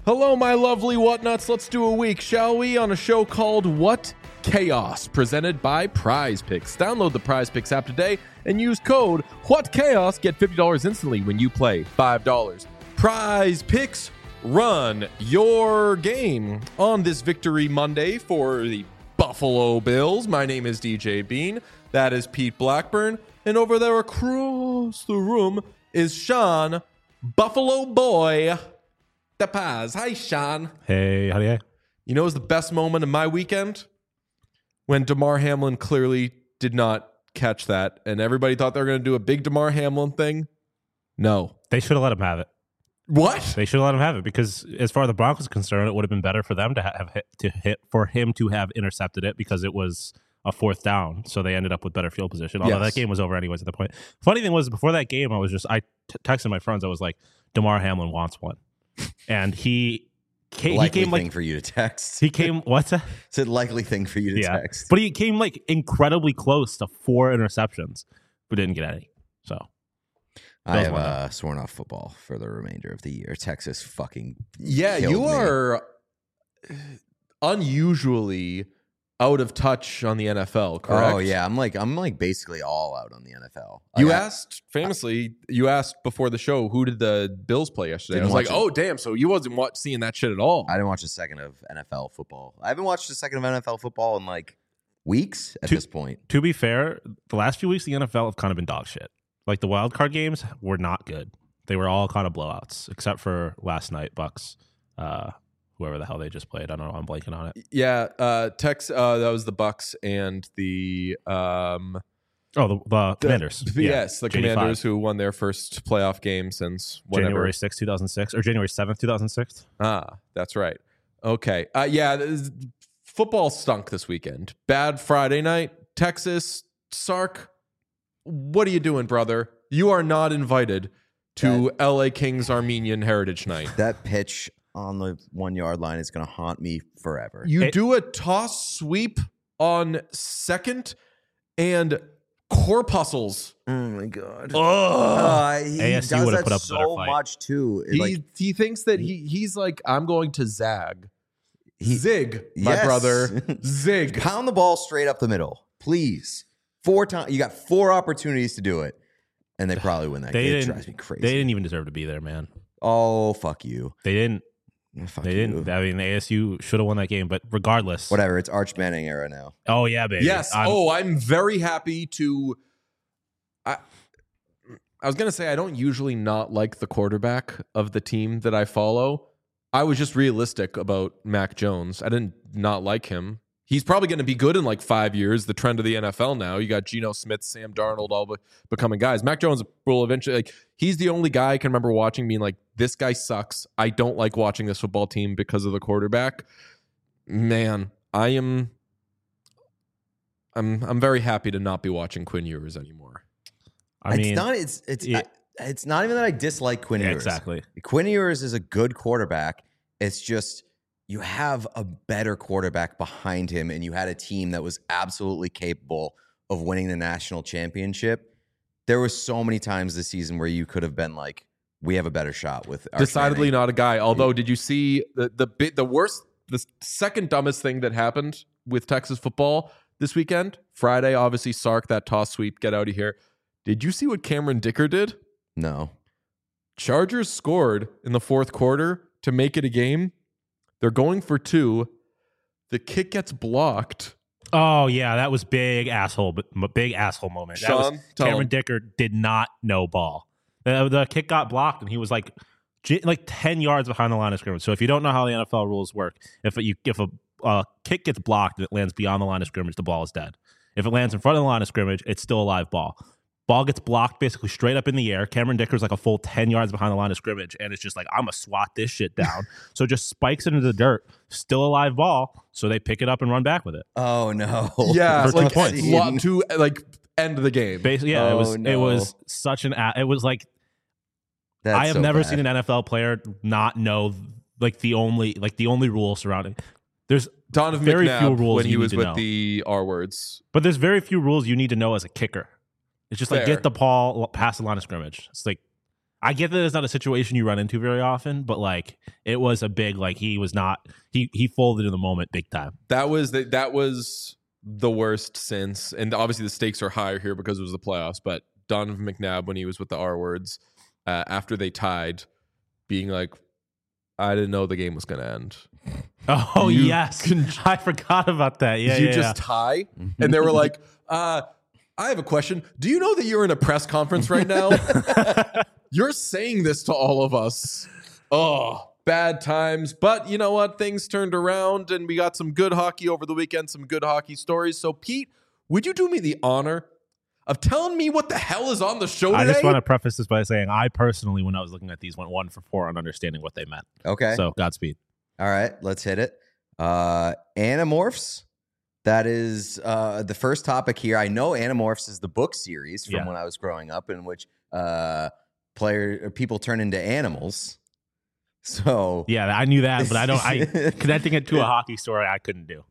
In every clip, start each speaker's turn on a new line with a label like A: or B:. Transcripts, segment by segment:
A: Hello, my lovely whatnuts. Let's do a week, shall we, on a show called What Chaos, presented by Prize Picks. Download the Prize Picks app today and use code WhatChaos. Get $50 instantly when you play $5. Prize Picks, run your game on this Victory Monday for the Buffalo Bills. My name is DJ Bean. That is Pete Blackburn. And over there across the room is Sean Buffalo Boy DePaz. Hi, Sean.
B: Hey, how do you?
A: You know, it was the best moment of my weekend when Damar Hamlin clearly did not catch that, and everybody thought they were going to do a big Damar Hamlin thing. No,
B: They should have let him have it.
A: What?
B: They should have let him have it because, as far as the Broncos are concerned, it would have been better for them to for him to have intercepted it because it was a fourth down. So they ended up with better field position. Although that game was over anyways at the point. Funny thing was, before that game, I texted my friends. I was like, Damar Hamlin wants one, and he came
C: thing for you to text.
B: He came. What's that?
C: It's a likely thing for you to text.
B: But he came like incredibly close to 4 interceptions, but didn't get any. So
C: I have sworn off football for the remainder of the year. Texas fucking
A: you are unusually out of touch on the NFL, correct?
C: Oh yeah, I'm like basically all out on the NFL.
A: You asked before the show, who did the Bills play yesterday? I was like, oh damn, so you wasn't seeing that shit at all.
C: I didn't watch a second of NFL football. I haven't watched a second of NFL football in like weeks at this point.
B: To be fair, the last few weeks the NFL have kind of been dog shit. Like the wild card games were not good. They were all kind of blowouts, except for last night, Bucks. Whoever the hell they just played. I don't know. I'm blanking on it.
A: Yeah, that was the Bucks and the
B: Commanders.
A: Yes, the Commanders who won their first playoff game since whatever.
B: January 6th, 2006, or January 7th, 2006.
A: That's right. Okay. Football stunk this weekend. Bad Friday night. Texas, Sark, what are you doing, brother? You are not invited to LA Kings Armenian Heritage Night.
C: That pitch on the 1 yard line is going to haunt me forever.
A: You do a toss sweep on second and corpuscles.
C: Oh my god! He
B: ASU
C: does
B: would have
C: that
B: put up a better
C: so
B: fight.
C: much too.
A: He thinks that he's like, I'm going to zag. Zig, my brother. Zig.
C: Pound the ball straight up the middle, please. 4 times. You got 4 opportunities to do it, and they probably win that game. It drives me crazy.
B: They didn't even deserve to be there, man.
C: Oh, fuck you.
B: They didn't.
C: Fuck
B: They
C: you.
B: didn't. I mean, the ASU should have won that game, but regardless.
C: Whatever. It's Arch Manning era now.
B: Oh, yeah, baby.
A: Yes. I'm very happy to. I was going to say, I don't usually not like the quarterback of the team that I follow. I was just realistic about Mac Jones. I didn't not like him. He's probably going to be good in like 5 years. The trend of the NFL now. You got Geno Smith, Sam Darnold, all becoming guys. Mac Jones will eventually, he's the only guy I can remember watching being like, this guy sucks. I don't like watching this football team because of the quarterback. Man, I'm very happy to not be watching Quinn Ewers anymore.
C: It's not even that I dislike Quinn Ewers.
B: Exactly.
C: Quinn Ewers is a good quarterback. It's just you have a better quarterback behind him, and you had a team that was absolutely capable of winning the national championship. There was so many times this season where you could have been like, we have a better shot with Arch
A: Decidedly
C: Manning.
A: not a guy. Although, did you see the second dumbest thing that happened with Texas football this weekend? Friday, obviously, Sark, that toss sweep, get out of here. Did you see what Cameron Dicker did?
C: No.
A: Chargers scored in the fourth quarter to make it a game. They're going for 2. The kick gets blocked.
B: Oh, yeah, that was big asshole moment.
A: Sean,
B: Cameron Dicker did not know ball. The kick got blocked, and he was like 10 yards behind the line of scrimmage. So if you don't know how the NFL rules work, if a kick gets blocked and it lands beyond the line of scrimmage, the ball is dead. If it lands in front of the line of scrimmage, it's still a live ball. Ball gets blocked basically straight up in the air. Cameron Dicker's like a full 10 yards behind the line of scrimmage, and it's just like, I'm going to swat this shit down. So just spikes it into the dirt. Still a live ball, so they pick it up and run back with it.
C: Oh, no.
A: Yeah,
B: For 2 points.
A: To end the game.
B: Basically, yeah, it was such an – it was like – I have never seen an NFL player not know the only rule surrounding. There's
A: Donovan
B: very
A: McNabb
B: few rules
A: when he
B: you
A: was
B: need to
A: with
B: know.
A: the R words.
B: But there's very few rules you need to know as a kicker. It's just like
A: Fair.
B: get the ball past the line of scrimmage. It's like I get that it's not a situation you run into very often, but like it was a big like he folded in the moment big time.
A: That was the worst since, and obviously the stakes are higher here because it was the playoffs. But Donovan McNabb, when he was with the R words after they tied, being like, "I didn't know the game was going to end."
B: Oh yes, I forgot about that. Yeah,
A: you just tie, and they were like, "I have a question. Do you know that you're in a press conference right now?" You're saying this to all of us. Oh, bad times. But you know what? Things turned around and we got some good hockey over the weekend, some good hockey stories. So, Pete, would you do me the honor of telling me what the hell is on the show today?
B: I just want to preface this by saying I personally, when I was looking at these, went 1 for 4 on understanding what they meant.
C: Okay.
B: So, Godspeed.
C: All right, let's hit it. Animorphs. That is the first topic here. I know Animorphs is the book series from when I was growing up in which people turn into animals. So
B: yeah, I knew that, but connecting it to a hockey story I couldn't do.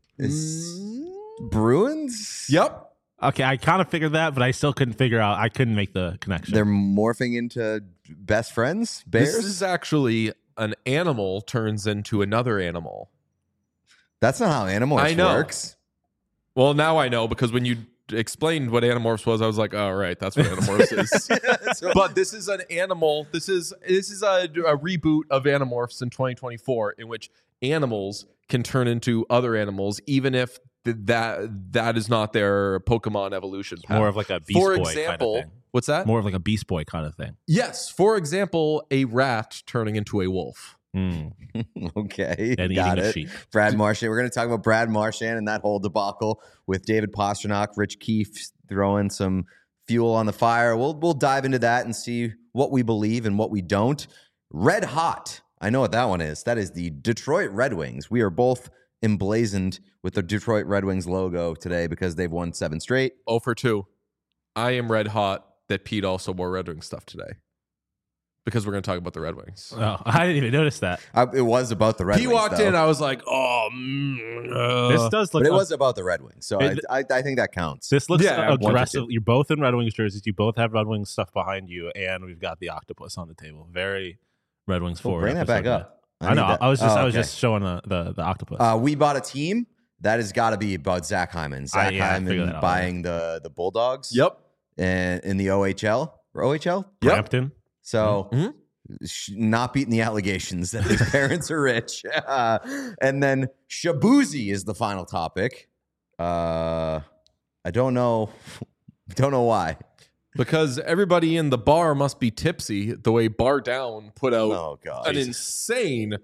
C: Bruins?
A: Yep.
B: Okay, I kind of figured that, but I still couldn't figure out. I couldn't make the connection.
C: They're morphing into best friends? Bears?
A: This is actually an animal turns into another animal.
C: That's not how Animorphs works.
A: Well, now I know because when you explained what Animorphs was, I was like, "Oh, right, that's what Animorphs is." But this is an animal. This is a reboot of Animorphs in 2024, in which animals can turn into other animals, even if that is not their Pokemon evolution path.
B: More of like a Beast Boy kind of thing.
A: What's that?
B: More of like a Beast Boy kind of thing.
A: Yes. For example, a rat turning into a wolf.
C: Okay,
B: and
C: got
B: eating
C: it.
B: a sheep.
C: Brad Marchand. We're going to talk about Brad Marchand and that whole debacle with David Pastrnak, Rich Keefe throwing some fuel on the fire. We'll dive into that and see what we believe and what we don't. Red Hot. I know what that one is. That is the Detroit Red Wings. We are both emblazoned with the Detroit Red Wings logo today because they've won 7 straight.
A: 0 for 2. I am red hot that Pete also wore Red Wings stuff today. Because we're going to talk about the Red Wings.
B: Oh, I didn't even notice that.
C: It was about the Red Wings.
A: He walked in, I was like, "Oh,
B: this does look."
C: But it was about the Red Wings, so I think that counts.
B: This looks aggressive. You're both in Red Wings jerseys. You both have Red Wings stuff behind you, and we've got the octopus on the table. Very Red Wings forward.
C: Bring that back up.
B: I know. I was just showing the octopus.
C: We bought a team that has got to be about Zach Hyman. Zach Hyman buying the Bulldogs.
A: Yep.
C: And in the OHL or OHL.
B: Brampton.
C: So not beating the allegations that his parents are rich. And then Shabuzi is the final topic. I don't know why.
A: Because everybody in the bar must be tipsy the way Bar Down put out an insane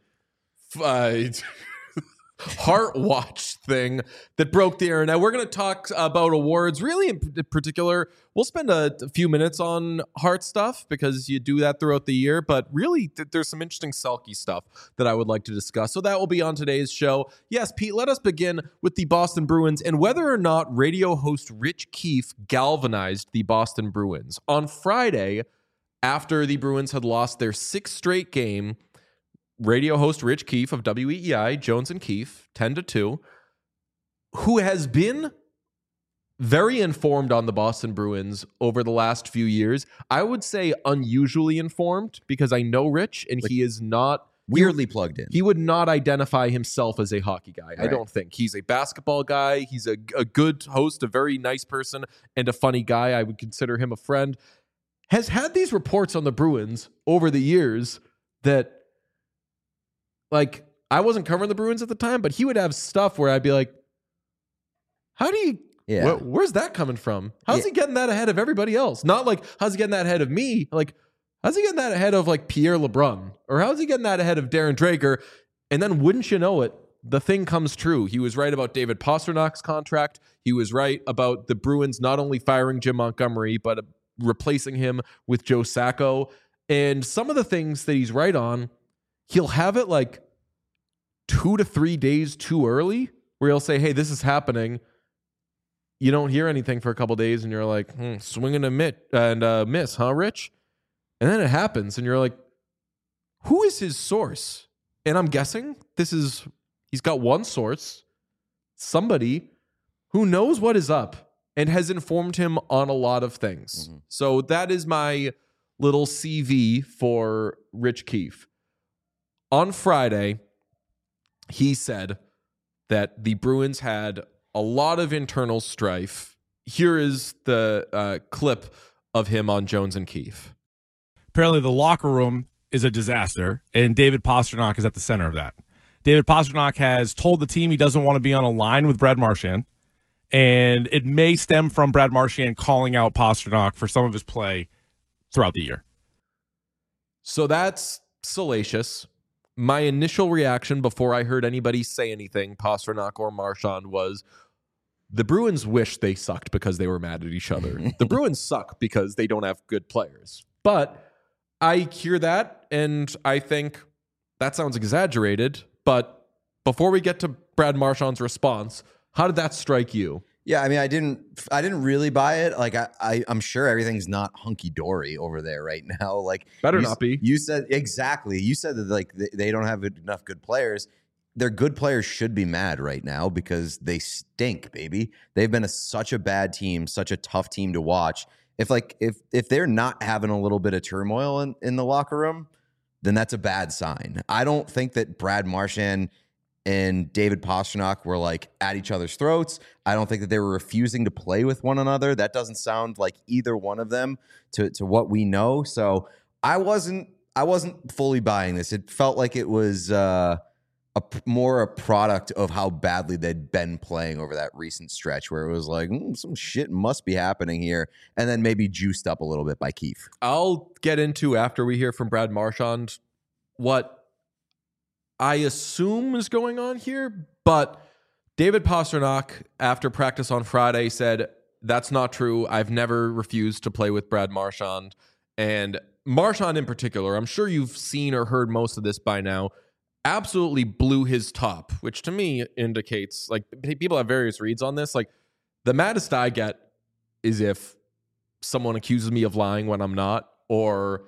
A: Heart Watch thing that broke the internet. We're going to talk about awards, really in particular. We'll spend a few minutes on Heart stuff because you do that throughout the year, but really there's some interesting Selke stuff that I would like to discuss. So that will be on today's show. Yes, Pete, let us begin with the Boston Bruins and whether or not radio host Rich Keefe galvanized the Boston Bruins. On Friday, after the Bruins had lost their 6th straight game, radio host Rich Keefe of WEEI, Jones and Keefe, 10-2, who has been very informed on the Boston Bruins over the last few years. I would say unusually informed because I know Rich and he is not
C: weirdly plugged in.
A: He would not identify himself as a hockey guy. Right. I don't think. He's a basketball guy. He's a good host, a very nice person, and a funny guy. I would consider him a friend. Has had these reports on the Bruins over the years that, like, I wasn't covering the Bruins at the time, but he would have stuff where I'd be like, how do you, where's that coming from? How's he getting that ahead of everybody else? Not like, how's he getting that ahead of me? Like, how's he getting that ahead of like Pierre LeBrun? Or how's he getting that ahead of Darren Drager? And then wouldn't you know it, the thing comes true. He was right about David Pasternak's contract. He was right about the Bruins not only firing Jim Montgomery, but replacing him with Joe Sacco. And some of the things that he's right on, he'll have it like 2 to 3 days too early where he'll say, hey, this is happening. You don't hear anything for a couple days and you're like, swing and a miss, huh, Rich? And then it happens and you're like, who is his source? And I'm guessing he's got one source, somebody who knows what is up and has informed him on a lot of things. Mm-hmm. So that is my little CV for Rich Keefe. On Friday, he said that the Bruins had a lot of internal strife. Here is the clip of him on Jones and Keefe.
D: Apparently, the locker room is a disaster, and David Pastrnak is at the center of that. David Pastrnak has told the team he doesn't want to be on a line with Brad Marchand, and it may stem from Brad Marchand calling out Pastrnak for some of his play throughout the year.
A: So that's salacious. My initial reaction before I heard anybody say anything, Pastrnak or Marchand, was the Bruins wish they sucked because they were mad at each other. The Bruins suck because they don't have good players. But I hear that, and I think that sounds exaggerated. But before we get to Brad Marchand's response, how did that strike you?
C: Yeah, I mean, I didn't really buy it. Like, I'm sure everything's not hunky dory over there right now. Like,
A: Better not be.
C: You said exactly. You said that like they don't have enough good players. Their good players should be mad right now because they stink, baby. They've been such a bad team, such a tough team to watch. If they're not having a little bit of turmoil in the locker room, then that's a bad sign. I don't think that Brad Marchand and David Pastrnak were like at each other's throats. I don't think that they were refusing to play with one another. That doesn't sound like either one of them to what we know. So I wasn't fully buying this. It felt like it was more a product of how badly they'd been playing over that recent stretch, where it was like some shit must be happening here, and then maybe juiced up a little bit by Keefe.
A: I'll get into, after we hear from Brad Marchand, what I assume is going on here, but David Pastrnak, after practice on Friday, said, that's not true. I've never refused to play with Brad Marchand. And Marchand in particular, I'm sure you've seen or heard most of this by now, absolutely blew his top, which to me indicates, like, people have various reads on this. Like, the maddest I get is if someone accuses me of lying when I'm not, or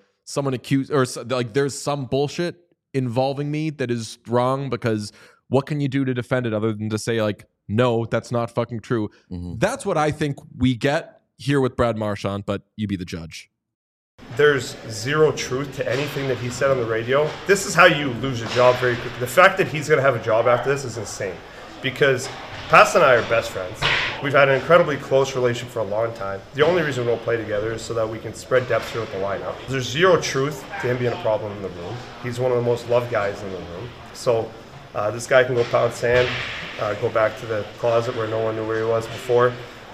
A: there's some bullshit involving me that is wrong, because what can you do to defend it other than to say, like, no, that's not fucking true. Mm-hmm. That's what I think we get here with Brad Marchand, but you be the judge.
E: There's zero truth to anything that he said on the radio. This is how you lose a job very quickly. The fact that he's going to have a job after this is insane, because Pass and I are best friends. We've had an incredibly close relationship for a long time. The only reason we don't play together is so that we can spread depth throughout the lineup. There's zero truth to him being a problem in the room. He's one of the most loved guys in the room. So this guy can go pound sand, go back to the closet where no one knew where he was before,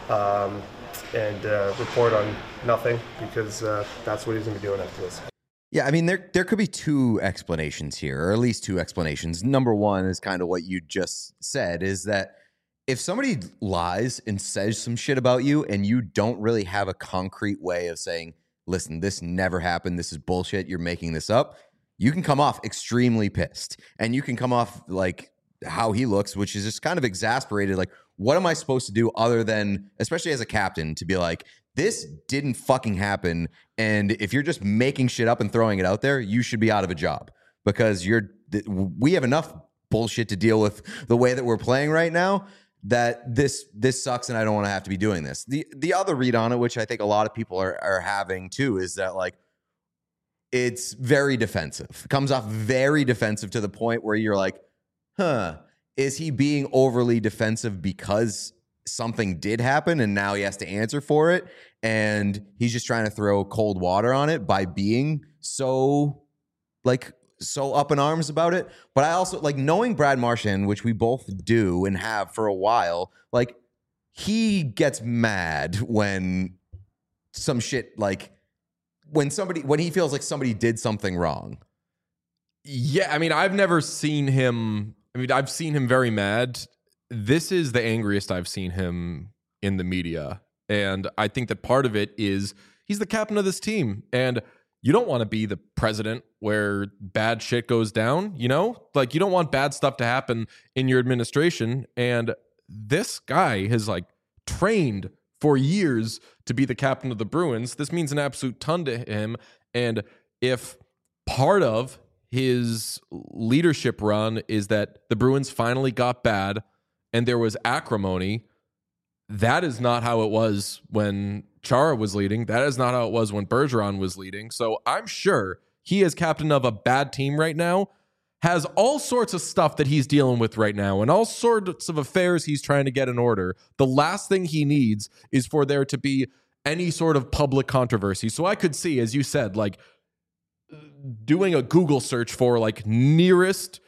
E: and report on nothing, because that's what he's going to be doing after this.
C: Yeah, I mean, there could be two explanations here, or at least two explanations. Number one is kind of what you just said, is that if somebody lies and says some shit about you and you don't really have a concrete way of saying, listen, this never happened, this is bullshit, you're making this up, you can come off extremely pissed. And you can come off like how he looks, which is just kind of exasperated. Like, what am I supposed to do other than, especially as a captain, to be like, this didn't fucking happen, and if you're just making shit up and throwing it out there, you should be out of a job, because we have enough bullshit to deal with the way that we're playing right now, that this sucks and I don't want to have to be doing this. The other read on it, which I think a lot of people are having too, is that like it's very defensive. It comes off very defensive to the point where you're like, is he being overly defensive because something did happen and now he has to answer for it, and he's just trying to throw cold water on it by being so up in arms about it? But I also, like, knowing Brad Marchand, which we both do and have for a while, like, he gets mad when some shit, like, when he feels like somebody did something wrong.
A: Yeah, I mean, I've seen him very mad. This is the angriest I've seen him in the media. And I think that part of it is he's the captain of this team. And you don't want to be the president where bad shit goes down, you know? Like, you don't want bad stuff to happen in your administration. And this guy has, like, trained for years to be the captain of the Bruins. This means an absolute ton to him. And if part of his leadership run is that the Bruins finally got bad and there was acrimony, that is not how it was when Chara was leading. That is not how it was when Bergeron was leading. So I'm sure he, as captain of a bad team right now, has all sorts of stuff that he's dealing with right now and all sorts of affairs he's trying to get in order. The last thing he needs is for there to be any sort of public controversy. So I could see, as you said, like doing a Google search for like nearest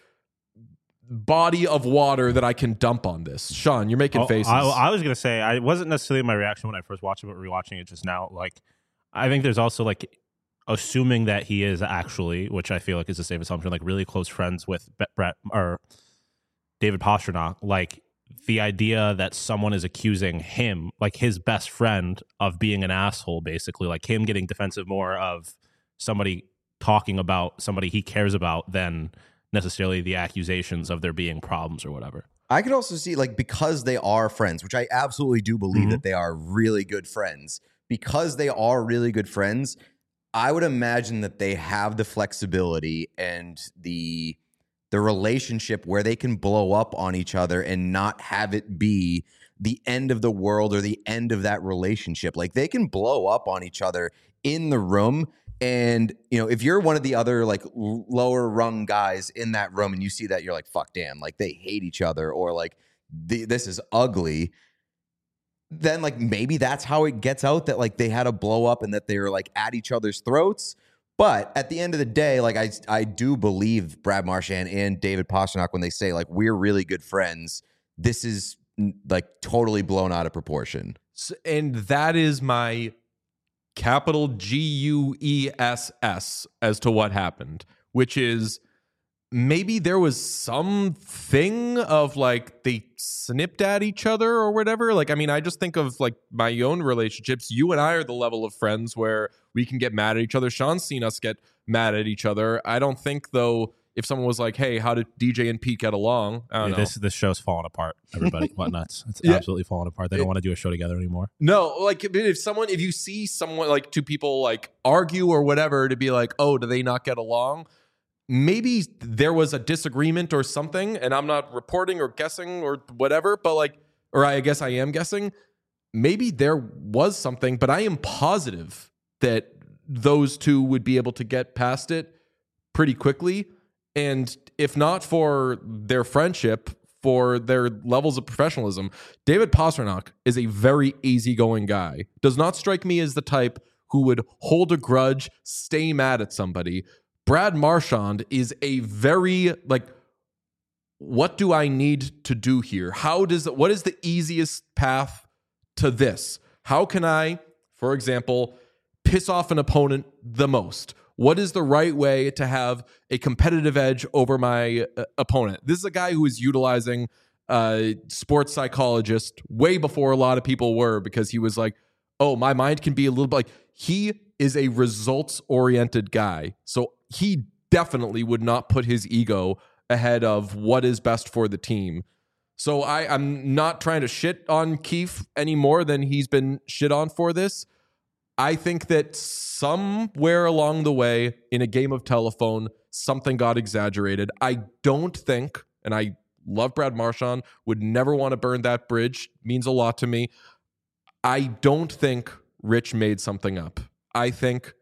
A: body of water that I can dump on this. Sean, you're making faces.
B: I was going to say, I wasn't necessarily my reaction when I first watched it, but rewatching it just now, like, I think there's also like, assuming that he is actually, which I feel like is a safe assumption, like really close friends with Brett or David Pastrnak, like the idea that someone is accusing him, like his best friend, of being an asshole, basically, like him getting defensive more of somebody talking about somebody he cares about than necessarily the accusations of there being problems or whatever.
C: I could also see, like, because they are friends, which I absolutely do believe that they are really good friends, because they are really good friends, I would imagine that they have the flexibility and the relationship where they can blow up on each other and not have it be the end of the world or the end of that relationship. Like, they can blow up on each other in the room. And, you know, if you're one of the other like lower rung guys in that room and you see that, you're like, fuck, damn, like they hate each other, or like this is ugly. Then like maybe that's how it gets out that like they had a blow up and that they were like at each other's throats. But at the end of the day, like I do believe Brad Marchand and David Pastrnak when they say like we're really good friends. This is like totally blown out of proportion.
A: And that is my capital GUESS as to what happened, which is maybe there was something of like they snipped at each other or whatever. Like, I mean, I just think of like my own relationships. You and I are the level of friends where we can get mad at each other. Sean's seen us get mad at each other. I don't think, though, if someone was like, hey, how did DJ and Pete get along? I don't know.
B: This show's falling apart, everybody. Whatnuts. It's absolutely falling apart. They don't want to do a show together anymore.
A: No, like if you see someone, like two people like argue or whatever, to be like, oh, do they not get along? Maybe there was a disagreement or something, and I'm not reporting or guessing or whatever, but like, or I guess I am guessing. Maybe there was something, but I am positive that those two would be able to get past it pretty quickly. And if not for their friendship, for their levels of professionalism, David Pastrnak is a very easygoing guy. Does not strike me as the type who would hold a grudge, stay mad at somebody. Brad Marchand is a very, like, what do I need to do here? What is the easiest path to this? How can I, for example, piss off an opponent the most? What is the right way to have a competitive edge over my opponent? This is a guy who is utilizing sports psychologist way before a lot of people were, because he was like, oh, my mind can be a little bit like, he is a results-oriented guy. So he definitely would not put his ego ahead of what is best for the team. So I'm not trying to shit on Keefe any more than he's been shit on for this. I think that somewhere along the way in a game of telephone, something got exaggerated. I don't think, and I love Brad Marchand, would never want to burn that bridge, means a lot to me. I don't think Rich made something up. I think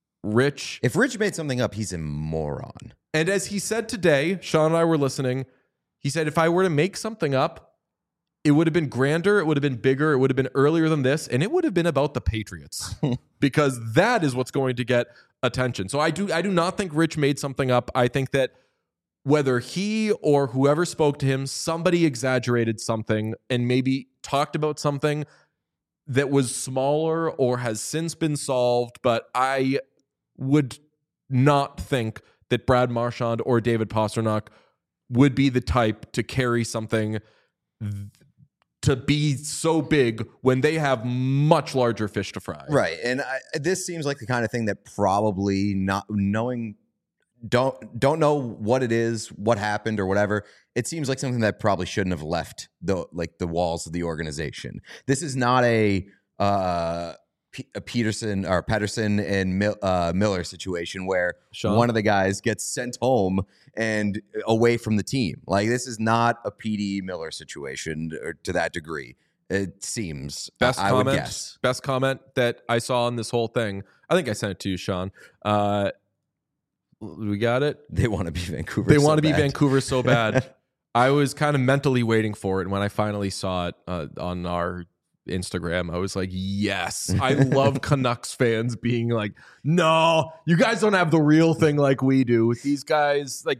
A: if Rich
C: made something up, he's a moron.
A: And as he said today, Sean and I were listening, he said, if I were to make something up, it would have been grander, it would have been bigger, it would have been earlier than this, and it would have been about the Patriots because that is what's going to get attention. So I do not think Rich made something up. I think that whether he or whoever spoke to him, somebody exaggerated something and maybe talked about something that was smaller or has since been solved, but I would not think that Brad Marchand or David Pastrnak would be the type to carry something to be so big when they have much larger fish to fry.
C: Right. And this seems like the kind of thing that probably not knowing, don't know what it is, what happened or whatever. It seems like something that probably shouldn't have left the walls of the organization. This is not a Patterson and Miller situation where one of the guys gets sent home and away from the team. Like, this is not a PD Miller situation or to that degree. It seems.
A: Best
C: I
A: comment.
C: would guess.
A: Best comment that I saw in this whole thing. I think I sent it to you, Sean. We got it.
C: They want to be Vancouver.
A: They want to be Vancouver so bad. I was kind of mentally waiting for it, and when I finally saw it on our Instagram, I was like, yes. I love Canucks fans being like, no, you guys don't have the real thing like we do. These guys, like,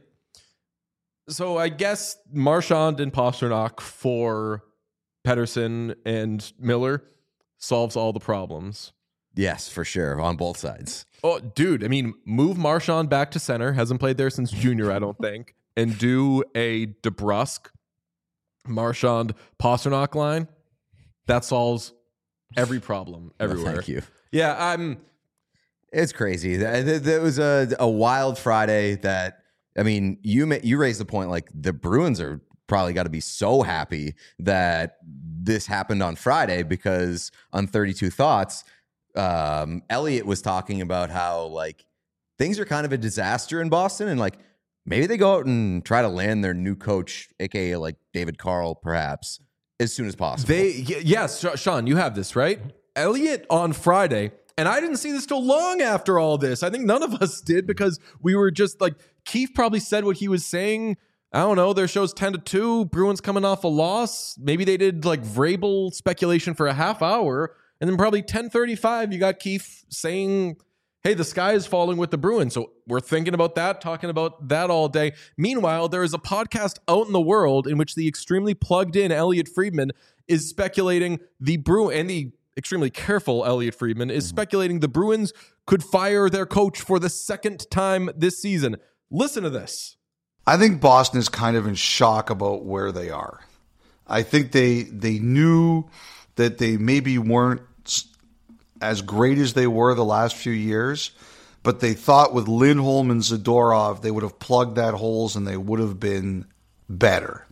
A: so I guess Marchand and Pastrnak for Pettersson and Miller solves all the problems.
C: Yes, for sure, on both sides.
A: Oh, dude, I mean, move Marchand back to center. Hasn't played there since junior, I don't think. And do a DeBrusk, Marchand, Pastrnak line. That solves every problem everywhere.
C: Well, thank you.
A: Yeah,
C: It's crazy. There was a wild Friday that, I mean, you raised the point, like, the Bruins are probably got to be so happy that this happened on Friday, because on 32 Thoughts, Elliot was talking about how, like, things are kind of a disaster in Boston, and, like, maybe they go out and try to land their new coach, aka like David Carl, perhaps, as soon as possible.
A: Yes, Sean, you have this, right? Elliot on Friday, and I didn't see this till long after all this. I think none of us did, because we were just like, Keefe probably said what he was saying. I don't know. Their show's 10-2. Bruins coming off a loss. Maybe they did like Vrabel speculation for a half hour, and then probably 10:35, you got Keefe saying, hey, the sky is falling with the Bruins. So we're thinking about that, talking about that all day. Meanwhile, there is a podcast out in the world in which the extremely plugged in Elliot Friedman is speculating the Bruins, and the extremely careful Elliot Friedman is speculating the Bruins could fire their coach for the second time this season. Listen to this.
F: I think Boston is kind of in shock about where they are. I think they knew that they maybe weren't as great as they were the last few years, but they thought with Lindholm and Zadorov, they would have plugged that holes and they would have been better.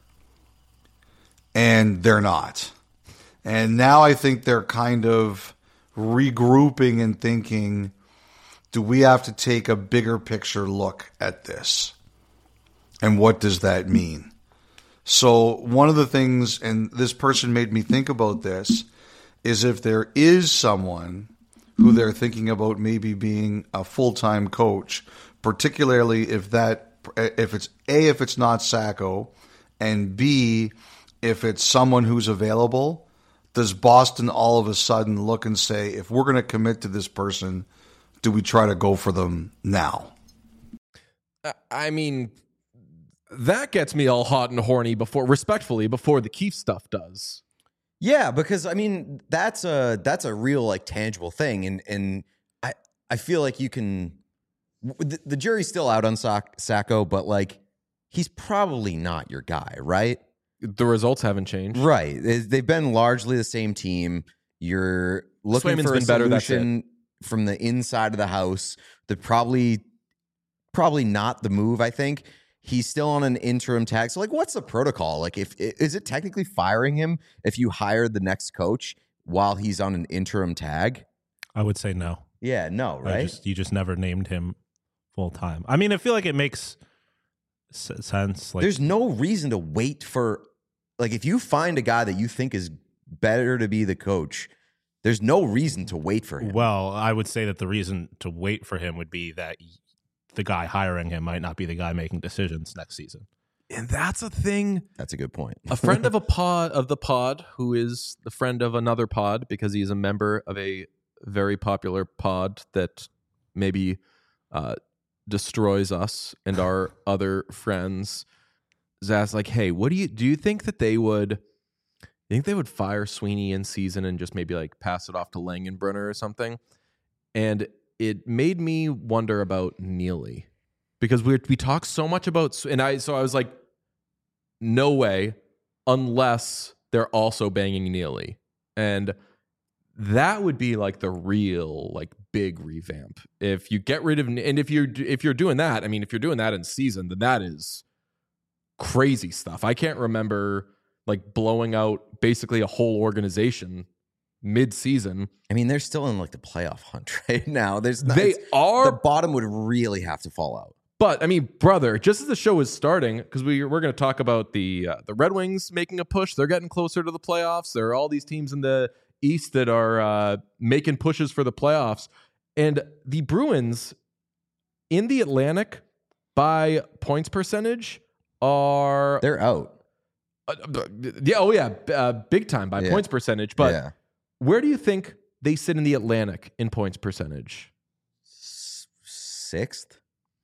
F: And they're not. And now I think they're kind of regrouping and thinking, do we have to take a bigger picture look at this? And what does that mean? So one of the things, and this person made me think about this, is if there is someone who they're thinking about maybe being a full-time coach, particularly if it's not Sacco, and B, if it's someone who's available, does Boston all of a sudden look and say, if we're going to commit to this person, do we try to go for them now?
A: I mean, that gets me all hot and horny respectfully before the Keefe stuff does.
C: Yeah, because I mean that's a real like tangible thing, and I feel like you can. The jury's still out on Sacco, but like he's probably not your guy, right?
A: The results haven't changed,
C: right? They've been largely the same team. You're looking
A: Swayman's
C: for a
A: been better,
C: solution from the inside of the house. They're probably not the move. I think. He's still on an interim tag. So, like, what's the protocol? Like, is it technically firing him if you hire the next coach while he's on an interim tag?
B: I would say no.
C: Yeah, no, right?
B: You just never named him full time. I mean, I feel like it makes sense. Like,
C: there's no reason to wait for, like, if you find a guy that you think is better to be the coach, there's no reason to wait for him.
B: Well, I would say that the reason to wait for him would be that the guy hiring him might not be the guy making decisions next season.
A: And that's a thing.
C: That's a good point.
A: A friend of the pod, who is the friend of another pod, because he is a member of a very popular pod that maybe destroys us and our other friends, is asked like, hey, what do you think that they would fire Sweeney in season and just maybe like pass it off to Langenbrunner or something? And it made me wonder about Neely, because we talk so much about, and I was like, no way, unless they're also banging Neely, and that would be like the real like big revamp if you get rid of, and if you're doing that, I mean, if you're doing that in season, then that is crazy stuff. I can't remember like blowing out basically a whole organization mid-season.
C: I mean, they're still in like the playoff hunt right now. The bottom would really have to fall out.
A: But I mean, brother, just as the show is starting, because we're going to talk about the Red Wings making a push. They're getting closer to the playoffs. There are all these teams in the East that are making pushes for the playoffs, and the Bruins in the Atlantic by points percentage
C: They're out.
A: Big time by points percentage. But where do you think they sit in the Atlantic in points percentage?
C: 6th?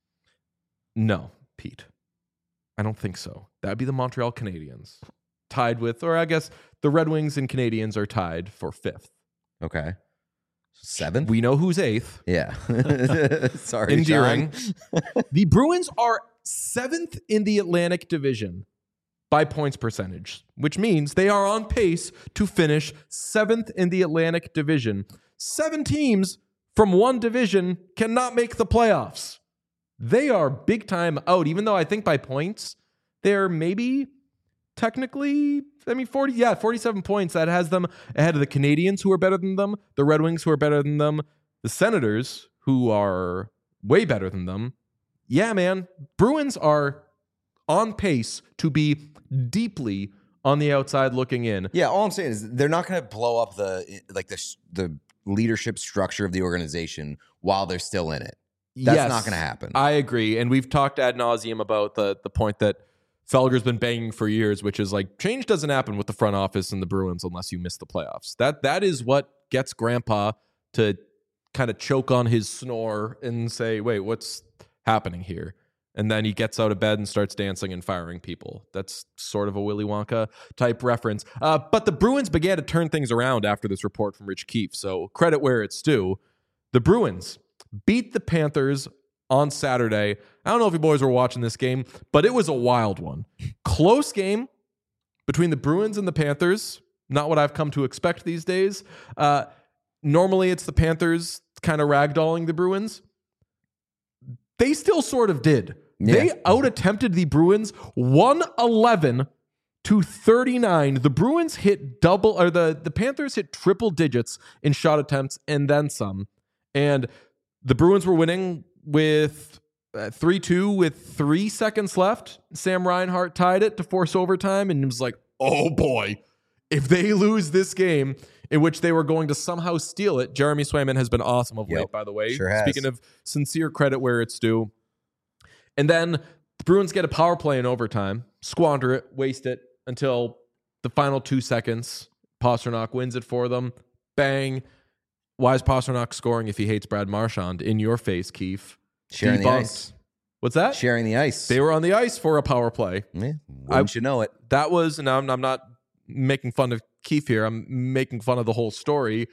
A: No, Pete. I don't think so. That'd be the Montreal Canadiens. Tied with, or I guess the Red Wings and Canadiens are tied for 5th.
C: Okay. 7th?
A: We know who's 8th.
C: Yeah. Sorry,
A: Endearing.
C: John.
A: The Bruins are 7th in the Atlantic Division by points percentage, which means they are on pace to finish 7th in the Atlantic Division. 7 teams from one division cannot make the playoffs. They are big time out, even though I think by points, they're maybe technically, 47 points. That has them ahead of the Canadiens, who are better than them, the Red Wings, who are better than them, the Senators, who are way better than them. Yeah, man. Bruins are on pace to be deeply on the outside looking in.
C: Yeah, all I'm saying is they're not going to blow up the leadership structure of the organization while they're still in it. That's not going to happen.
A: I agree. And we've talked ad nauseum about the point that Felger's been banging for years, which is like change doesn't happen with the front office and the Bruins unless you miss the playoffs. That is what gets Grandpa to kind of choke on his snore and say, wait, what's happening here? And then he gets out of bed and starts dancing and firing people. That's sort of a Willy Wonka type reference. But the Bruins began to turn things around after this report from Rich Keefe. So credit where it's due. The Bruins beat the Panthers on Saturday. I don't know if you boys were watching this game, but it was a wild one. Close game between the Bruins and the Panthers. Not what I've come to expect these days. Normally it's the Panthers kind of ragdolling the Bruins. They still sort of did. Yeah. They out-attempted the Bruins 111 to 39. The Bruins hit the Panthers hit triple digits in shot attempts and then some. And the Bruins were winning with 3-2 with 3 seconds left. Sam Reinhart tied it to force overtime, and it was like, oh boy, if they lose this game in which they were going to somehow steal it. Jeremy Swayman has been awesome of late, by the way.
C: Sure has.
A: Speaking of sincere credit where it's due. And then the Bruins get a power play in overtime, squander it, waste it until the final 2 seconds. Pastrnak wins it for them. Bang. Why is Pastrnak scoring if he hates Brad Marchand? In your face, Keefe.
C: Sharing the ice.
A: What's that?
C: Sharing the ice.
A: They were on the ice for a power play.
C: Yeah, wouldn't you know it?
A: That was, and I'm not making fun of Keefe here. I'm making fun of the whole story.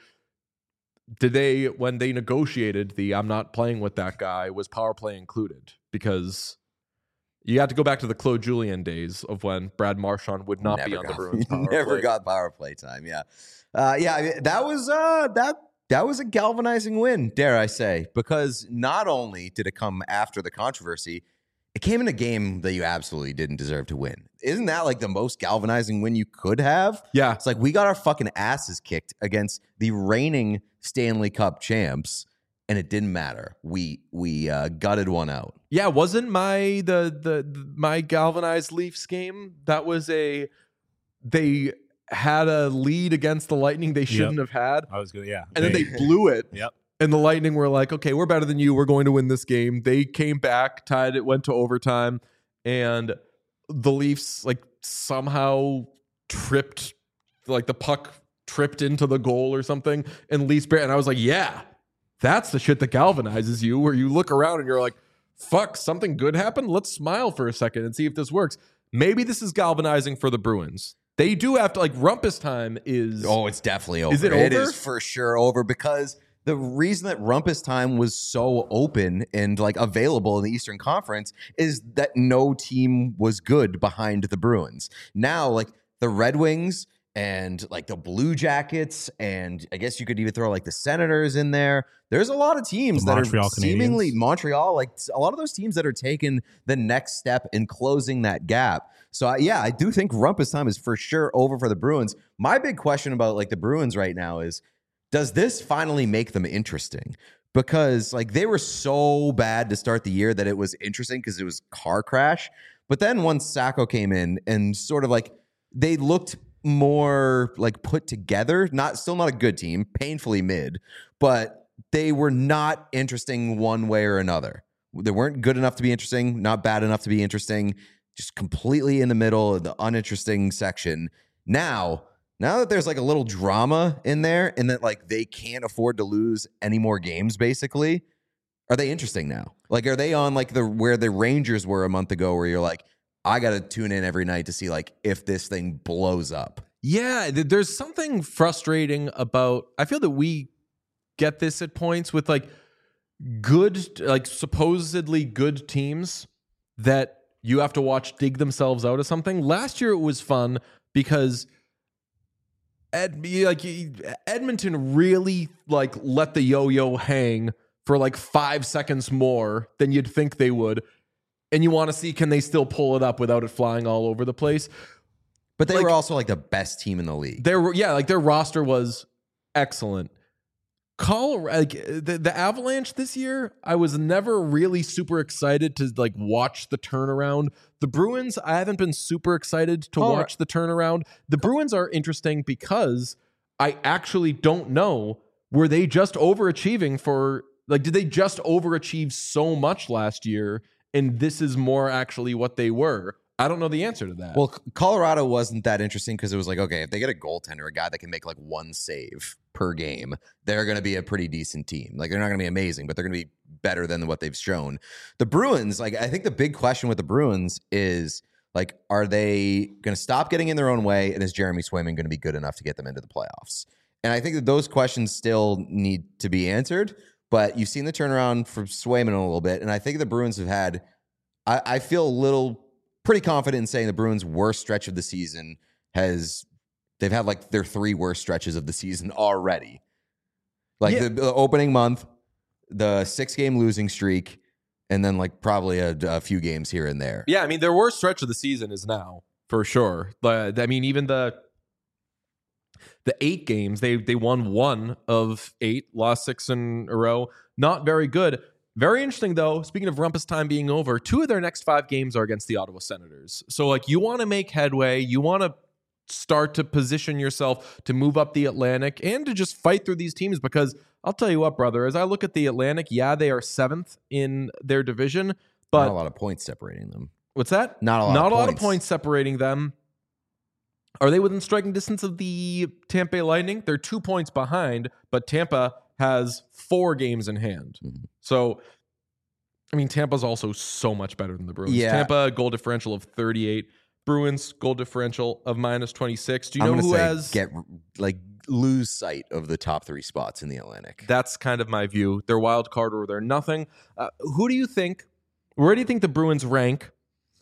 A: When they negotiated I'm not playing with that guy, was power play included? Because you had to go back to the Claude Julien days of when Brad Marchand would not be on the Bruins power play.
C: Never got power play time, yeah. I mean, that was a galvanizing win, dare I say, because not only did it come after the controversy, it came in a game that you absolutely didn't deserve to win. Isn't that like the most galvanizing win you could have?
A: Yeah.
C: It's like we got our fucking asses kicked against the reigning Stanley Cup champs, and it didn't matter. We gutted one out.
A: Yeah, wasn't my my galvanized Leafs game? That was they had a lead against the Lightning they shouldn't have had.
B: I was good, yeah.
A: And then they blew it.
B: Yep.
A: And the Lightning were like, okay, we're better than you. We're going to win this game. They came back, tied it, went to overtime, and the Leafs like somehow tripped, like the puck tripped into the goal or something. And Leafs, and I was like, yeah, that's the shit that galvanizes you, where you look around and you're like, fuck, something good happened? Let's smile for a second and see if this works. Maybe this is galvanizing for the Bruins. They do have to, like, rumpus time is...
C: Oh, it's definitely over.
A: Is it over?
C: It is for sure over, because the reason that rumpus time was so open and, like, available in the Eastern Conference is that no team was good behind the Bruins. Now, like, the Red Wings and, like, the Blue Jackets, and I guess you could even throw, like, the Senators in there. There's a lot of teams that are seemingly... Montreal, like, a lot of those teams that are taking the next step in closing that gap. So, I do think rumpus time is for sure over for the Bruins. My big question about, like, the Bruins right now is, does this finally make them interesting? Because like they were so bad to start the year that it was interesting because it was car crash. But then once Sacco came in and sort of like they looked more like put together, still not a good team, painfully mid, but they were not interesting one way or another. They weren't good enough to be interesting, not bad enough to be interesting, just completely in the middle of the uninteresting section. Now that there's like a little drama in there and that like they can't afford to lose any more games, basically, are they interesting now? Like, are they on like where the Rangers were a month ago, where you're like, I got to tune in every night to see like if this thing blows up?
A: Yeah, there's something frustrating about, I feel that we get this at points with like good, like supposedly good teams that you have to watch dig themselves out of something. Last year it was fun because Edmonton really like let the yo-yo hang for like 5 seconds more than you'd think they would. And you want to see, can they still pull it up without it flying all over the place?
C: But they were also like the best team in the league.
A: Their roster was excellent. Colorado, like the Avalanche this year, I was never really super excited to like watch the turnaround. The Bruins, I haven't been super excited to watch the turnaround. The Bruins are interesting because I actually don't know, were they just overachieving for, like, did they just overachieve so much last year and this is more actually what they were? I don't know the answer to that.
C: Well, Colorado wasn't that interesting because it was like, okay, if they get a goaltender, a guy that can make like one save per game, they're going to be a pretty decent team. Like, they're not going to be amazing, but they're going to be better than what they've shown. The Bruins, like, I think the big question with the Bruins is, like, are they going to stop getting in their own way? And is Jeremy Swayman going to be good enough to get them into the playoffs? And I think that those questions still need to be answered, but you've seen the turnaround for Swayman a little bit. And I think the Bruins have had, I feel pretty confident in saying the Bruins' worst stretch of the season they've had like their 3 worst stretches of the season already. Like the opening month, the 6-game losing streak, and then like probably a few games here and there.
A: Yeah, I mean, their worst stretch of the season is now, for sure. But I mean, even the 8 games, they won 1 of 8, lost 6 in a row. Not very good. Very interesting, though. Speaking of rumpus time being over, 2 of their next 5 games are against the Ottawa Senators. So, like, you want to make headway. You want to start to position yourself to move up the Atlantic and to just fight through these teams, because I'll tell you what, brother, as I look at the Atlantic, yeah, they are 7th in their division, but
C: not a lot of points separating them.
A: What's that?
C: Not a lot of points
A: separating them. Are they within striking distance of the Tampa Bay Lightning? They're 2 points behind, but Tampa has 4 games in hand. Mm-hmm. So, I mean, Tampa's also so much better than the Bruins. Yeah. Tampa, goal differential of 38. Bruins, goal differential of -26. Do you know who has...
C: lose sight of the top 3 spots in the Atlantic.
A: That's kind of my view. They're wild card or they're nothing. Where do you think the Bruins rank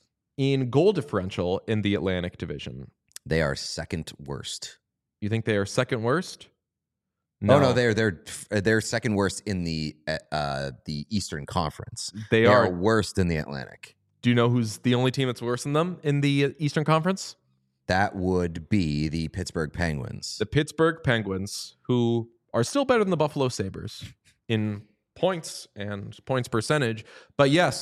A: in goal differential in the Atlantic division?
C: They are second worst.
A: You think they are second worst?
C: No, they're second worst in the Eastern Conference.
A: They are
C: worst in the Atlantic.
A: Do you know who's the only team that's worse than them in the Eastern Conference?
C: That would be the Pittsburgh Penguins.
A: The Pittsburgh Penguins, who are still better than the Buffalo Sabres in points and points percentage. But yes,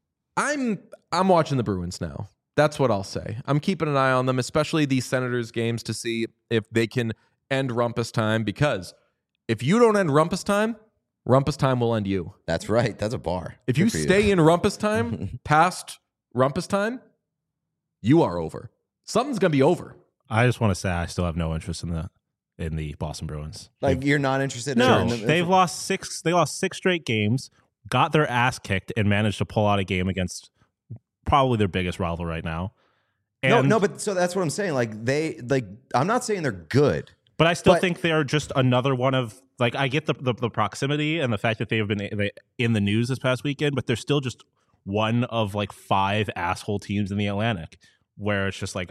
A: I'm watching the Bruins now. That's what I'll say. I'm keeping an eye on them, especially these Senators games, to see if they can end rumpus time, because if you don't end rumpus time will end you.
C: That's right. That's a bar.
A: If you stay in rumpus time past rumpus time, you are over. Something's going to be over.
B: I just want to say I still have no interest in the Boston Bruins.
C: Like, you're not interested
B: in
C: in
B: they've lost 6 straight games, got their ass kicked, and managed to pull out a game against probably their biggest rival right now. And
C: but so that's what I'm saying. I'm not saying they're good.
B: But I still think they are just another one of, like, I get the proximity and the fact that they have been in the news this past weekend, but they're still just one of like 5 asshole teams in the Atlantic, where it's just like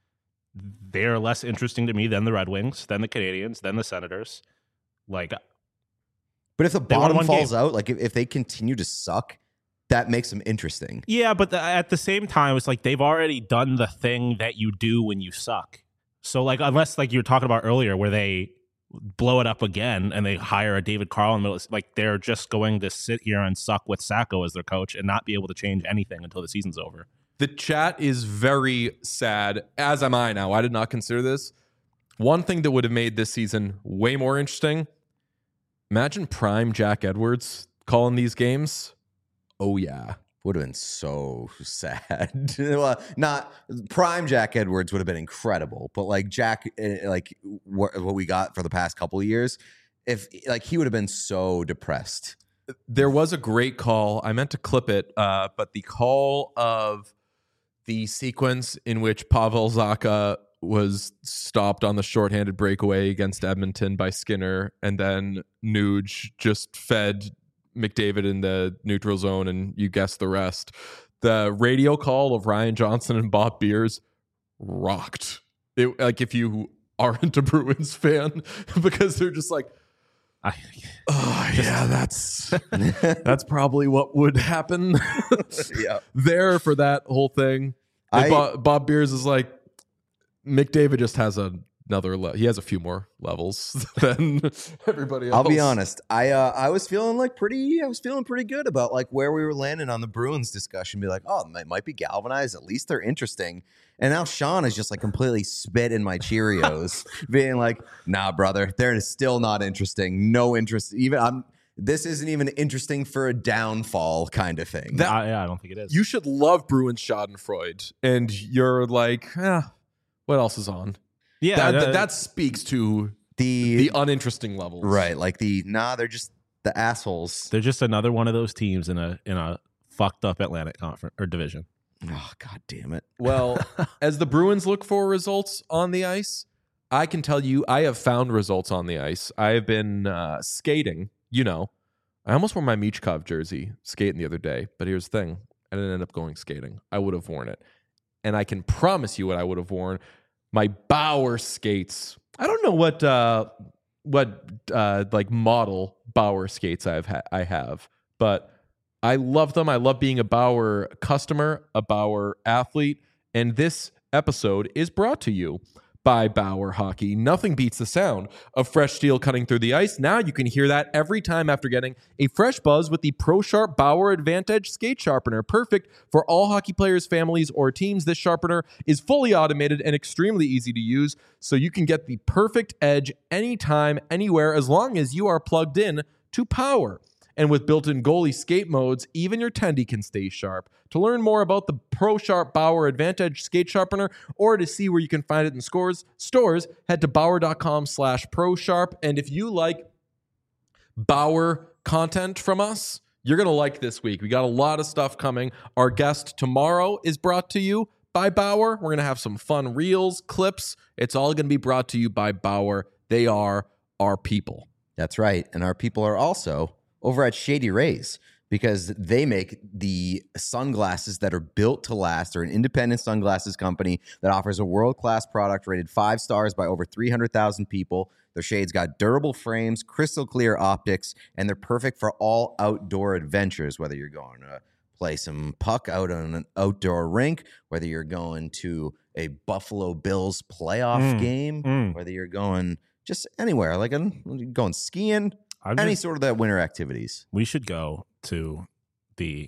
B: they're less interesting to me than the Red Wings, than the Canadiens, than the Senators. Like,
C: but if the bottom falls out, like if they continue to suck, that makes them interesting.
B: Yeah, but at the same time, it's like they've already done the thing that you do when you suck. So, like, unless, like you were talking about earlier, where they blow it up again and they hire a David Carl in the middle, like they're just going to sit here and suck with Sacco as their coach and not be able to change anything until the season's over.
A: The chat is very sad, as am I now. I did not consider this. One thing that would have made this season way more interesting, imagine prime Jack Edwards calling these games. Oh, yeah.
C: Would have been so sad. Well, not prime Jack Edwards would have been incredible, but like Jack, like what we got for the past couple of years, if like he would have been so depressed.
A: There was a great call. I meant to clip it, but the call of the sequence in which Pavel Zacha was stopped on the shorthanded breakaway against Edmonton by Skinner, and then Nuge just fed McDavid in the neutral zone, and you guessed the rest. The radio call of Ryan Johnson and Bob Beers rocked. It, like if you aren't a Bruins fan, because they're just like, yeah, that's probably what would happen
C: Yeah.
A: there for that whole thing. Bob Beers is like, McDavid just has another he has a few more levels than everybody else.
C: I'll be honest. I was feeling pretty good about like where we were landing on the Bruins discussion. Be like, oh, they might be galvanized. At least they're interesting. And now Sean is just like completely spit in my Cheerios, being like, nah, brother, they're still not interesting. No interest. This isn't even interesting for a downfall kind of thing.
B: I don't think it is.
A: You should love Bruins Schadenfreude, and you're like, what else is on?
B: Yeah,
A: that speaks to the uninteresting levels,
C: right? Like they're just the assholes.
B: They're just another one of those teams in a fucked up Atlantic Conference or division.
C: Oh, God damn it.
A: Well, as the Bruins look for results on the ice, I can tell you I have found results on the ice. I have been skating. I almost wore my Michkov jersey skating the other day, but here's the thing. I didn't end up going skating. I would have worn it. And I can promise you what I would have worn. My Bauer skates. I don't know what like model Bauer skates I have, but I love them. I love being a Bauer customer, a Bauer athlete, and this episode is brought to you by Bauer Hockey. Nothing beats the sound of fresh steel cutting through the ice. Now you can hear that every time after getting a fresh buzz with the ProSharp Bauer Advantage Skate Sharpener. Perfect for all hockey players, families, or teams. This sharpener is fully automated and extremely easy to use, so you can get the perfect edge anytime, anywhere, as long as you are plugged in to power. And with built-in goalie skate modes, even your tendy can stay sharp. To learn more about the ProSharp Bauer Advantage Skate Sharpener or to see where you can find it in stores, head to Bauer.com/ProSharp. And if you like Bauer content from us, you're going to like this week. We got a lot of stuff coming. Our guest tomorrow is brought to you by Bauer. We're going to have some fun reels, clips. It's all going to be brought to you by Bauer. They are our people.
C: That's right. And our people are also over at Shady Rays, because they make the sunglasses that are built to last. They're an independent sunglasses company that offers a world-class product rated 5 stars by over 300,000 people. Their shades got durable frames, crystal clear optics, and they're perfect for all outdoor adventures, whether you're going to play some puck out on an outdoor rink, whether you're going to a Buffalo Bills playoff game, whether you're going just anywhere, like going skiing, any sort of that winter activities.
B: We should go to the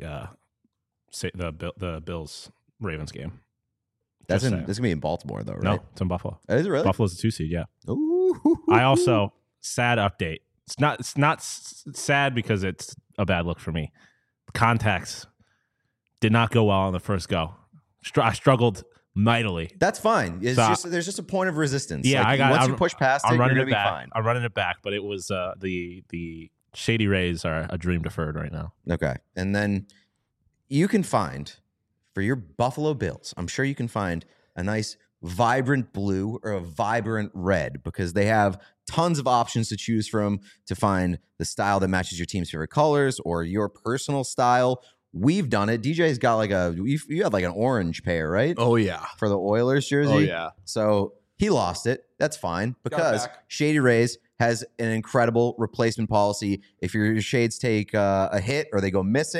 B: Bills Ravens game.
C: That's gonna be in Baltimore though, right?
B: No, it's in Buffalo.
C: Is it really?
B: Buffalo's a 2 seed. Yeah.
C: Ooh.
B: I also sad update. It's not sad because it's a bad look for me. Contacts did not go well on the first go. I struggled mightily.
C: That's fine. It's there's just a point of resistance.
B: Yeah,
C: like, once you push past it, you're gonna be fine.
B: I'm running it back, but it was the Shady Rays are a dream deferred right now.
C: Okay, and then you can find for your Buffalo Bills, I'm sure you can find a nice vibrant blue or a vibrant red, because they have tons of options to choose from to find the style that matches your team's favorite colors or your personal style. We've done it. DJ's got like you have like an orange pair, right?
A: Oh, yeah.
C: For the Oilers jersey.
A: Oh, yeah.
C: So he lost it. That's fine, because Shady Rays has an incredible replacement policy. If your shades take a hit or they go missing,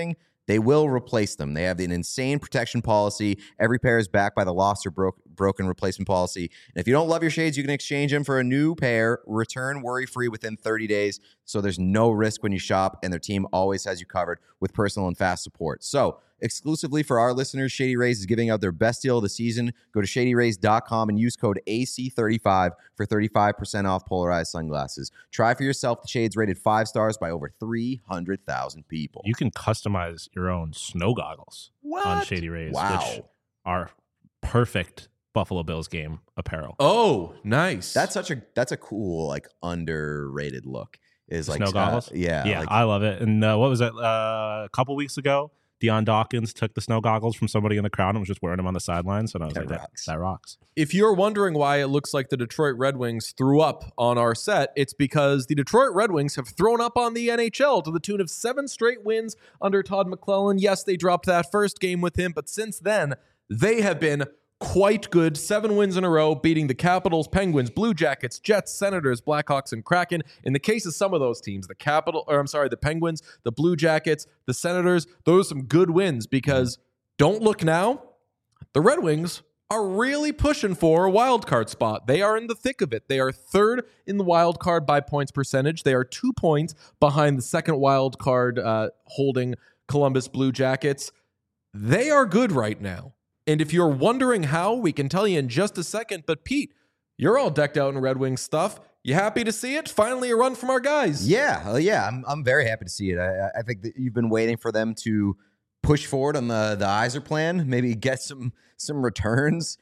C: they will replace them. They have an insane protection policy. Every pair is backed by the lost or broken replacement policy. And if you don't love your shades, you can exchange them for a new pair, return worry-free within 30 days. So there's no risk when you shop, and their team always has you covered with personal and fast support. So exclusively for our listeners, Shady Rays is giving out their best deal of the season. Go to shadyrays.com and use code AC35 for 35% off polarized sunglasses. Try for yourself the shades rated 5 stars by over 300,000 people.
B: You can customize your own snow goggles on Shady Rays, which are perfect Buffalo Bills game apparel.
A: Oh, nice.
C: That's a cool, like, underrated look. Is like
B: snow goggles?
C: Yeah.
B: Like, I love it. And what was it? A couple weeks ago, Deion Dawkins took the snow goggles from somebody in the crowd and was just wearing them on the sidelines. And I was that rocks.
A: If you're wondering why it looks like the Detroit Red Wings threw up on our set, it's because the Detroit Red Wings have thrown up on the NHL to the tune of 7 straight wins under Todd McClellan. Yes, they dropped that first game with him, but since then, they have been quite good. 7 wins in a row, beating the Capitals, Penguins, Blue Jackets, Jets, Senators, Blackhawks, and Kraken. In the case of some of those teams, the Penguins, the Blue Jackets, the Senators, those are some good wins because don't look now, the Red Wings are really pushing for a wild card spot. They are in the thick of it. They are 3rd in the wild card by points percentage. They are 2 points behind the second wild card holding Columbus Blue Jackets. They are good right now. And if you're wondering how, we can tell you in just a second. But Pete, you're all decked out in Red Wings stuff. You happy to see it? Finally a run from our guys.
C: Yeah. I'm very happy to see it. I think that you've been waiting for them to push forward on the Yzer plan, maybe get some returns.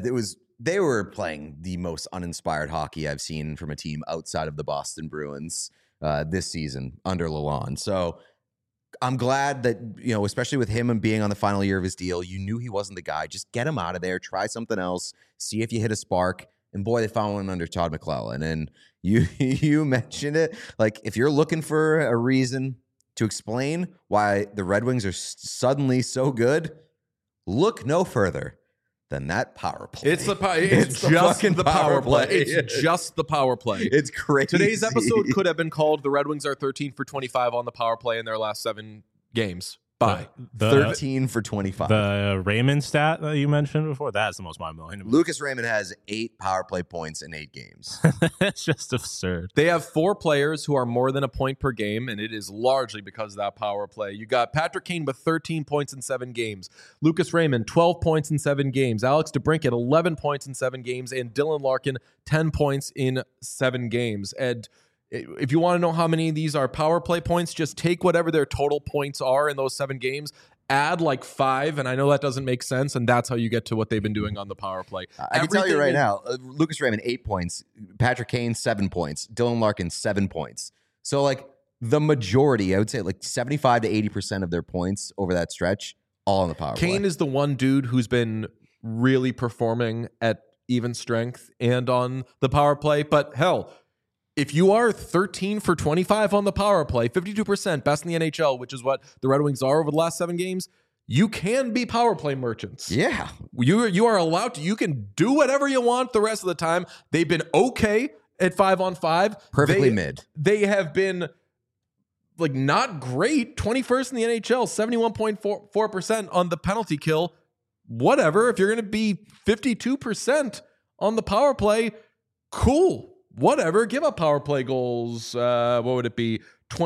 C: They were playing the most uninspired hockey I've seen from a team outside of the Boston Bruins this season under Lalonde. So I'm glad that, especially with him and being on the final year of his deal, you knew he wasn't the guy. Just get him out of there. Try something else. See if you hit a spark. And boy, they found one under Todd McClellan. And you mentioned it. Like, if you're looking for a reason to explain why the Red Wings are suddenly so good, look no further than that power play.
A: It's just the power play. It's just the power play.
C: It's crazy.
A: Today's episode could have been called "The Red Wings are 13 for 25 on the power play in their last 7 games." Bye.
C: 13 for 25.
B: The Raymond stat that you mentioned before, that's the most mind-blowing.
C: Lucas Raymond has 8 power play points in 8 games.
B: It's just absurd.
A: They have 4 players who are more than a point per game, and it is largely because of that power play. You got Patrick Kane with 13 points in 7 games. Lucas Raymond, 12 points in 7 games. Alex DeBrincat, 11 points in 7 games. And Dylan Larkin, 10 points in 7 games. And if you want to know how many of these are power play points, just take whatever their total points are in those 7 games, add like 5, and I know that doesn't make sense, and that's how you get to what they've been doing on the power play.
C: I can tell you right now, Lucas Raymond, 8 points, Patrick Kane, 7 points, Dylan Larkin, 7 points. So, like, the majority, I would say like 75 to 80% of their points over that stretch, all on the power play.
A: Kane is the one dude who's been really performing at even strength and on the power play, but hell, if you are 13 for 25 on the power play, 52%, best in the NHL, which is what the Red Wings are over the last 7 games, you can be power play merchants.
C: Yeah.
A: You are allowed to. You can do whatever you want the rest of the time. They've been okay at 5-on-5.
C: Perfectly mid.
A: They have been like not great. 21st in the NHL, 71.4% on the penalty kill. Whatever. If you're going to be 52% on the power play, cool. Whatever, give up power play goals. What would it be?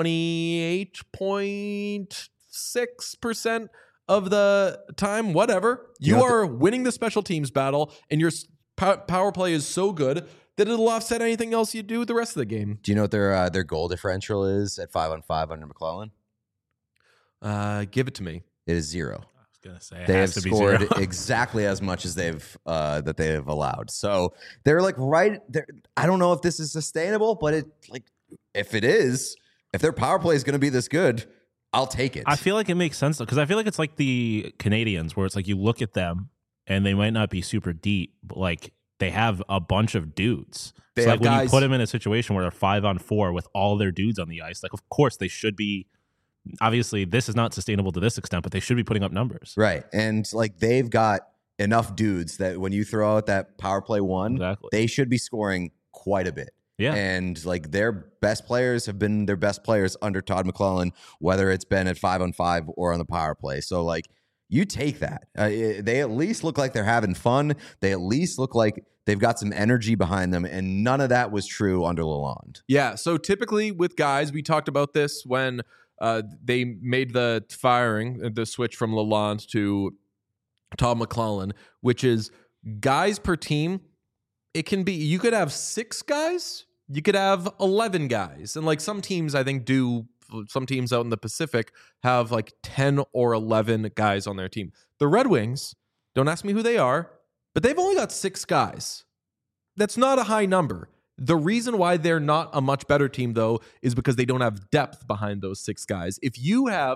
A: 28.6% of the time. Whatever. You are winning the special teams battle, and your power play is so good that it'll offset anything else you do the rest of the game.
C: Do you know what their goal differential is at 5-on-5 under McClellan?
A: Give it to me.
C: It is 0.
B: Gonna say
C: they have scored exactly as much as they have allowed. So they're like right there. I don't know if this is sustainable, but if it is, if their power play is going to be this good, I'll take it.
B: I feel like it makes sense though, because I feel like it's like the Canadians, where it's like you look at them and they might not be super deep, but like they have a bunch of dudes. So like when you put them in a situation where they're 5-on-4 with all their dudes on the ice, like of course they should be. Obviously, this is not sustainable to this extent, but they should be putting up numbers.
C: Right. And like they've got enough dudes that when you throw out that power play 1, they should be scoring quite a bit.
B: Yeah.
C: And like their best players have been their best players under Todd McClellan, whether it's been at 5-on-5 or on the power play. So like you take that. They at least look like they're having fun. They at least look like they've got some energy behind them. And none of that was true under Lalonde.
A: Yeah. So typically with guys, we talked about this when they made the switch from Lalonde to Todd McClellan, which is guys per team. It can be, you could have 6 guys, you could have 11 guys. And like some teams, I think some teams out in the Pacific have like 10 or 11 guys on their team. The Red Wings, don't ask me who they are, but they've only got 6 guys. That's not a high number. The reason why they're not a much better team, though, is because they don't have depth behind those 6 guys. If you have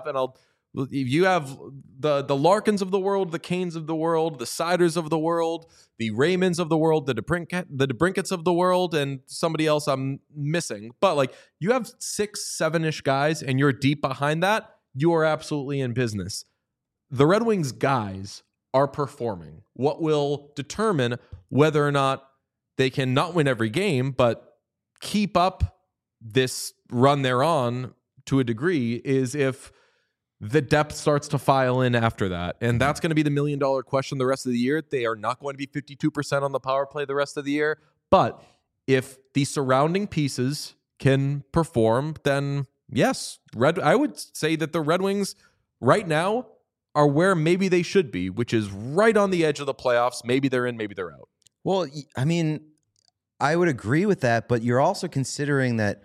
A: the Larkins of the world, the Canes of the world, the Siders of the world, the Raymonds of the world, the DeBrinkets of the world, and somebody else I'm missing. But like you have 6, 7-ish guys and you're deep behind that, you are absolutely in business. The Red Wings guys are performing. What will determine whether or not they can not win every game, but keep up this run they're on to a degree is if the depth starts to file in after that. And that's going to be the $1 million question the rest of the year. They are not going to be 52% on the power play the rest of the year. But if the surrounding pieces can perform, then yes, I would say that the Red Wings right now are where maybe they should be, which is right on the edge of the playoffs. Maybe they're in, maybe they're out.
C: Well, I mean, I would agree with that, but you're also considering that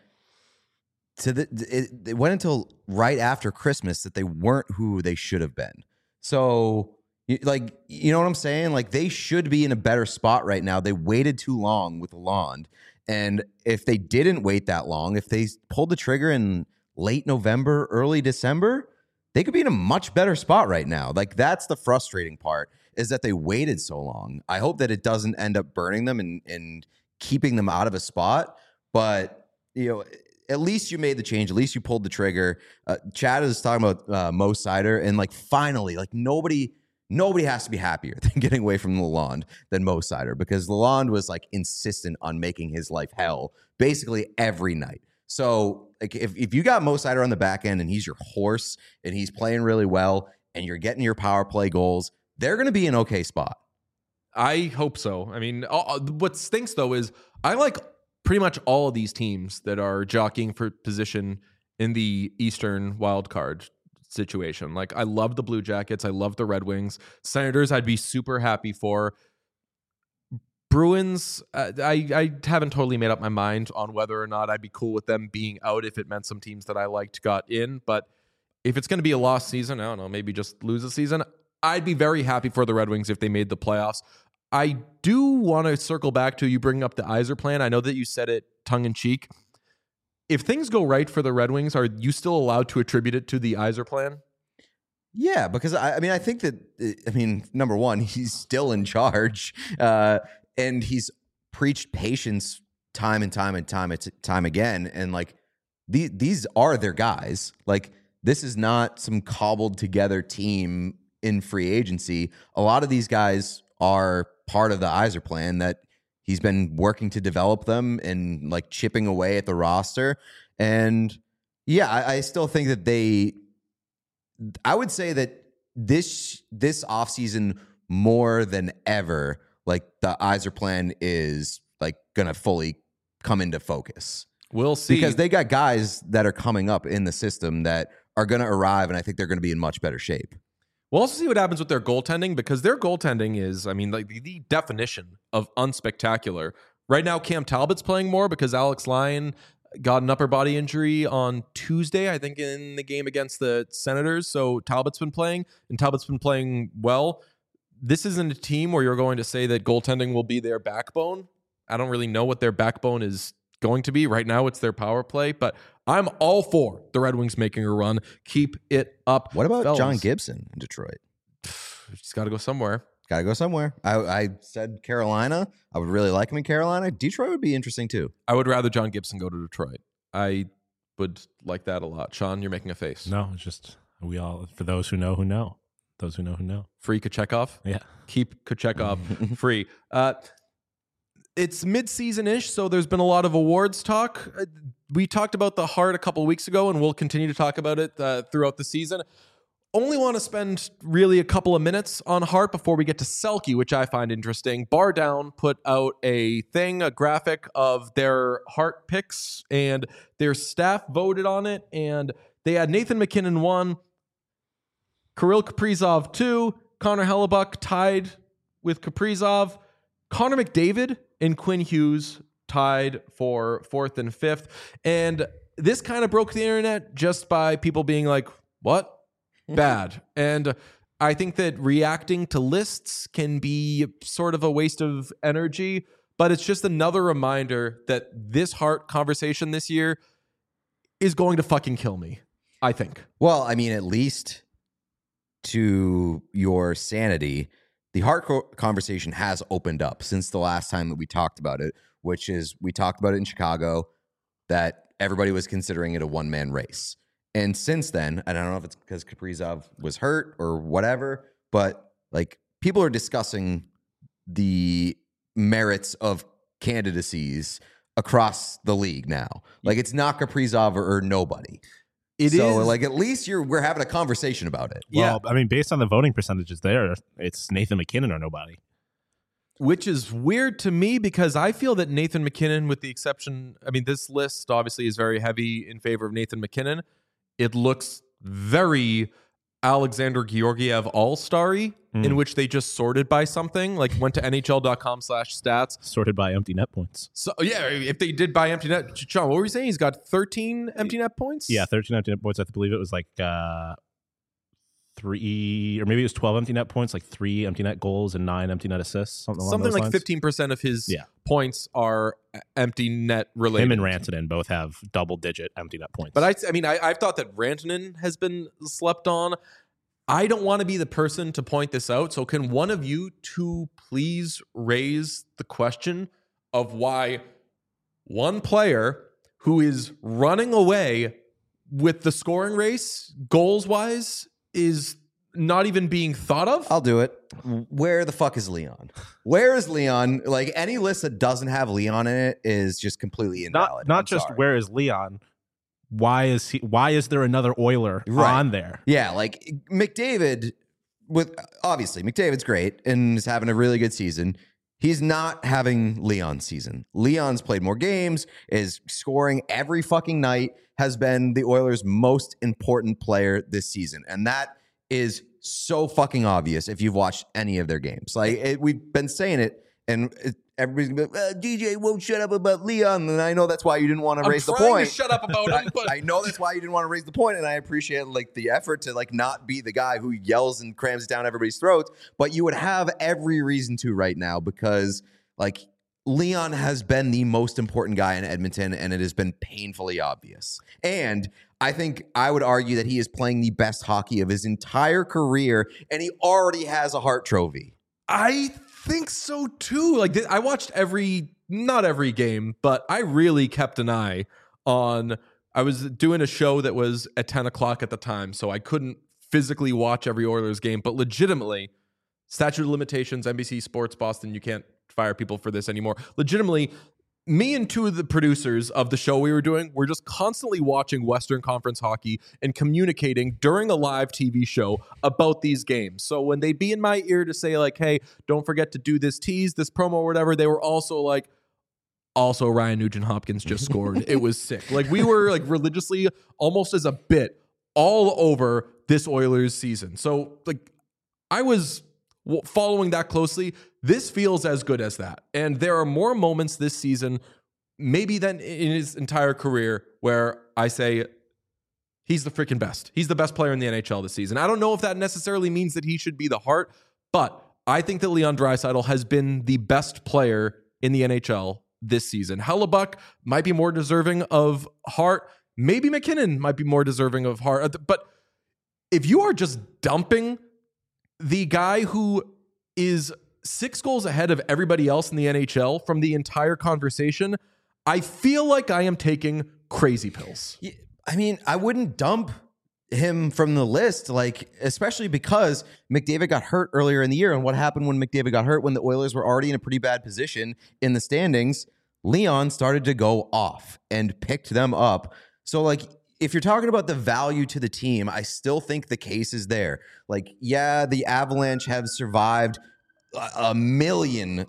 C: it went until right after Christmas that they weren't who they should have been. So, like, you know what I'm saying? Like, they should be in a better spot right now. They waited too long with Lalonde. And if they didn't wait that long, if they pulled the trigger in late November, early December, they could be in a much better spot right now. Like, that's the frustrating part, is that they waited so long. I hope that it doesn't end up burning them and keeping them out of a spot. But, you know, at least you made the change. At least you pulled the trigger. Chad is talking about Mo Seider, and like finally, like nobody has to be happier than getting away from Lalonde than Mo Seider, because Lalonde was like insistent on making his life hell basically every night. So like if you got Mo Seider on the back end and he's your horse and he's playing really well and you're getting your power play goals, they're going to be in an okay spot.
A: I hope so. I mean, what stinks though is I like pretty much all of these teams that are jockeying for position in the Eastern wildcard situation. Like, I love the Blue Jackets. I love the Red Wings. Senators, I'd be super happy for. Bruins, I haven't totally made up my mind on whether or not I'd be cool with them being out if it meant some teams that I liked got in. But if it's going to be a lost season, I don't know, maybe just lose a season, I'd be very happy for the Red Wings if they made the playoffs. I do want to circle back to you bringing up the Yzer plan. I know that you said it tongue-in-cheek. If things go right for the Red Wings, are you still allowed to attribute it to the Yzer plan?
C: Yeah, because I think that, number one, he's still in charge, and he's preached patience time and time again. And like these are their guys. Like, this is not some cobbled together team in free agency. A lot of these guys are part of the Yzer plan, that he's been working to develop them and like chipping away at the roster. And yeah, I still think that I would say that this offseason more than ever, like the Yzer plan is like going to fully come into focus.
A: We'll see.
C: Because they got guys that are coming up in the system that are going to arrive, and I think they're going to be in much better shape.
A: We'll also see what happens with their goaltending, because their goaltending is, like the definition of unspectacular. Right now, Cam Talbot's playing more because Alex Lyon got an upper body injury on Tuesday, I think, in the game against the Senators. So Talbot's been playing, and Talbot's been playing well. This isn't a team where you're going to say that goaltending will be their backbone. I don't really know what their backbone is going to be. Right now, it's their power play, but I'm all for the Red Wings making a run. Keep it up.
C: What about
A: fellas.
C: John Gibson in Detroit?
A: He's got to go somewhere.
C: Got to go somewhere. I said Carolina. I would really like him in Carolina. Detroit would be interesting too.
A: I would rather John Gibson go to Detroit. I would like that a lot. Sean, you're making a face.
B: No, it's just we all, for those who know who know. Those who know who know.
A: Free Kochekov?
B: Yeah.
A: Keep Kochekov free. it's mid-season-ish, so there's been a lot of awards talk. We talked about the Hart a couple weeks ago, and we'll continue to talk about it throughout the season. Only want to spend really a couple of minutes on Hart before we get to Selke, which I find interesting. Bar Down put out a graphic of their Hart picks, and their staff voted on it, and they had Nathan MacKinnon 1, Kirill Kaprizov 2, Connor Hellebuck tied with Kaprizov, Connor McDavid and Quinn Hughes tied for 4th and 5th. And this kind of broke the internet just by people being like, what? Bad. And I think that reacting to lists can be sort of a waste of energy, but it's just another reminder that this Hart conversation this year is going to fucking kill me, I think.
C: Well, I mean, at least to your sanity, the Hart conversation has opened up since the last time that we talked about it, which is we talked about it in Chicago, that everybody was considering it a one-man race. And since then, and I don't know if it's because Kaprizov was hurt or whatever, but like people are discussing the merits of candidacies across the league now. Like it's not Kaprizov or nobody. It is like at least we're having a conversation about it.
B: Well, I mean, based on the voting percentages there, it's Nathan MacKinnon or nobody.
A: Which is weird to me because I feel that Nathan MacKinnon, with the exception, I mean, this list obviously is very heavy in favor of Nathan MacKinnon. It looks very Alexander Georgiev all-starry, in which they just sorted by something, like went to NHL.com/stats.
B: Sorted by empty net points.
A: So, yeah, if they did by empty net, Sean, what were you saying? He's got 13 empty net points?
B: Yeah, 13 empty net points. I believe it was like 3, or maybe it was 12 empty net points, like 3 empty net goals and 9 empty net assists. Something
A: like
B: lines.
A: 15% of his points are empty net related.
B: Him and Rantanen both have double-digit empty net points.
A: But I've thought that Rantanen has been slept on. I don't want to be the person to point this out. So can one of you two please raise the question of why one player who is running away with the scoring race, goals-wise, is not even being thought of?
C: I'll do it. Where the fuck is Leon? Where is Leon? Like any list that doesn't have Leon in it is just completely invalid.
B: Not just sorry. Where is Leon? Why is there another Oiler on there?
C: Yeah, like McDavid, obviously McDavid's great and is having a really good season. He's not having Leon's season. Leon's played more games, is scoring every fucking night, has been the Oilers' most important player this season. And that is so fucking obvious if you've watched any of their games. Like we've been saying it, and everybody's going to be like, DJ won't shut up about Leon. And I know that's why you didn't want to raise the point.
A: I'm trying to shut up about him. But
C: I know that's why you didn't want to raise the point, and I appreciate like the effort to like not be the guy who yells and crams it down everybody's throats. But you would have every reason to right now because like Leon has been the most important guy in Edmonton, and it has been painfully obvious. And I think I would argue that he is playing the best hockey of his entire career, and he already has a Hart Trophy.
A: I think so too. Like I watched not every game, but I really kept an eye on. I was doing a show that was at 10 o'clock at the time, so I couldn't physically watch every Oilers game, but legitimately, statute of limitations, NBC Sports Boston, you can't fire people for this anymore. Legitimately, me and two of the producers of the show we were doing were just constantly watching Western Conference hockey and communicating during a live TV show about these games. So when they'd be in my ear to say like, hey, don't forget to do this tease, this promo or whatever, they were also like, also Ryan Nugent-Hopkins just scored. It was sick. Like we were like religiously, almost as a bit, all over this Oilers season. So like I was following that closely. This feels as good as that. And there are more moments this season, maybe than in his entire career, where I say, he's the freaking best. He's the best player in the NHL this season. I don't know if that necessarily means that he should be the Hart, but I think that Leon Draisaitl has been the best player in the NHL this season. Hellebuck might be more deserving of Hart. Maybe MacKinnon might be more deserving of Hart. But if you are just dumping the guy who is 6 goals ahead of everybody else in the NHL from the entire conversation, I feel like I am taking crazy pills.
C: I mean, I wouldn't dump him from the list, like especially because McDavid got hurt earlier in the year. And what happened when McDavid got hurt, when the Oilers were already in a pretty bad position in the standings, Leon started to go off and picked them up. So like, if you're talking about the value to the team, I still think the case is there. Like, yeah, the Avalanche have survived a million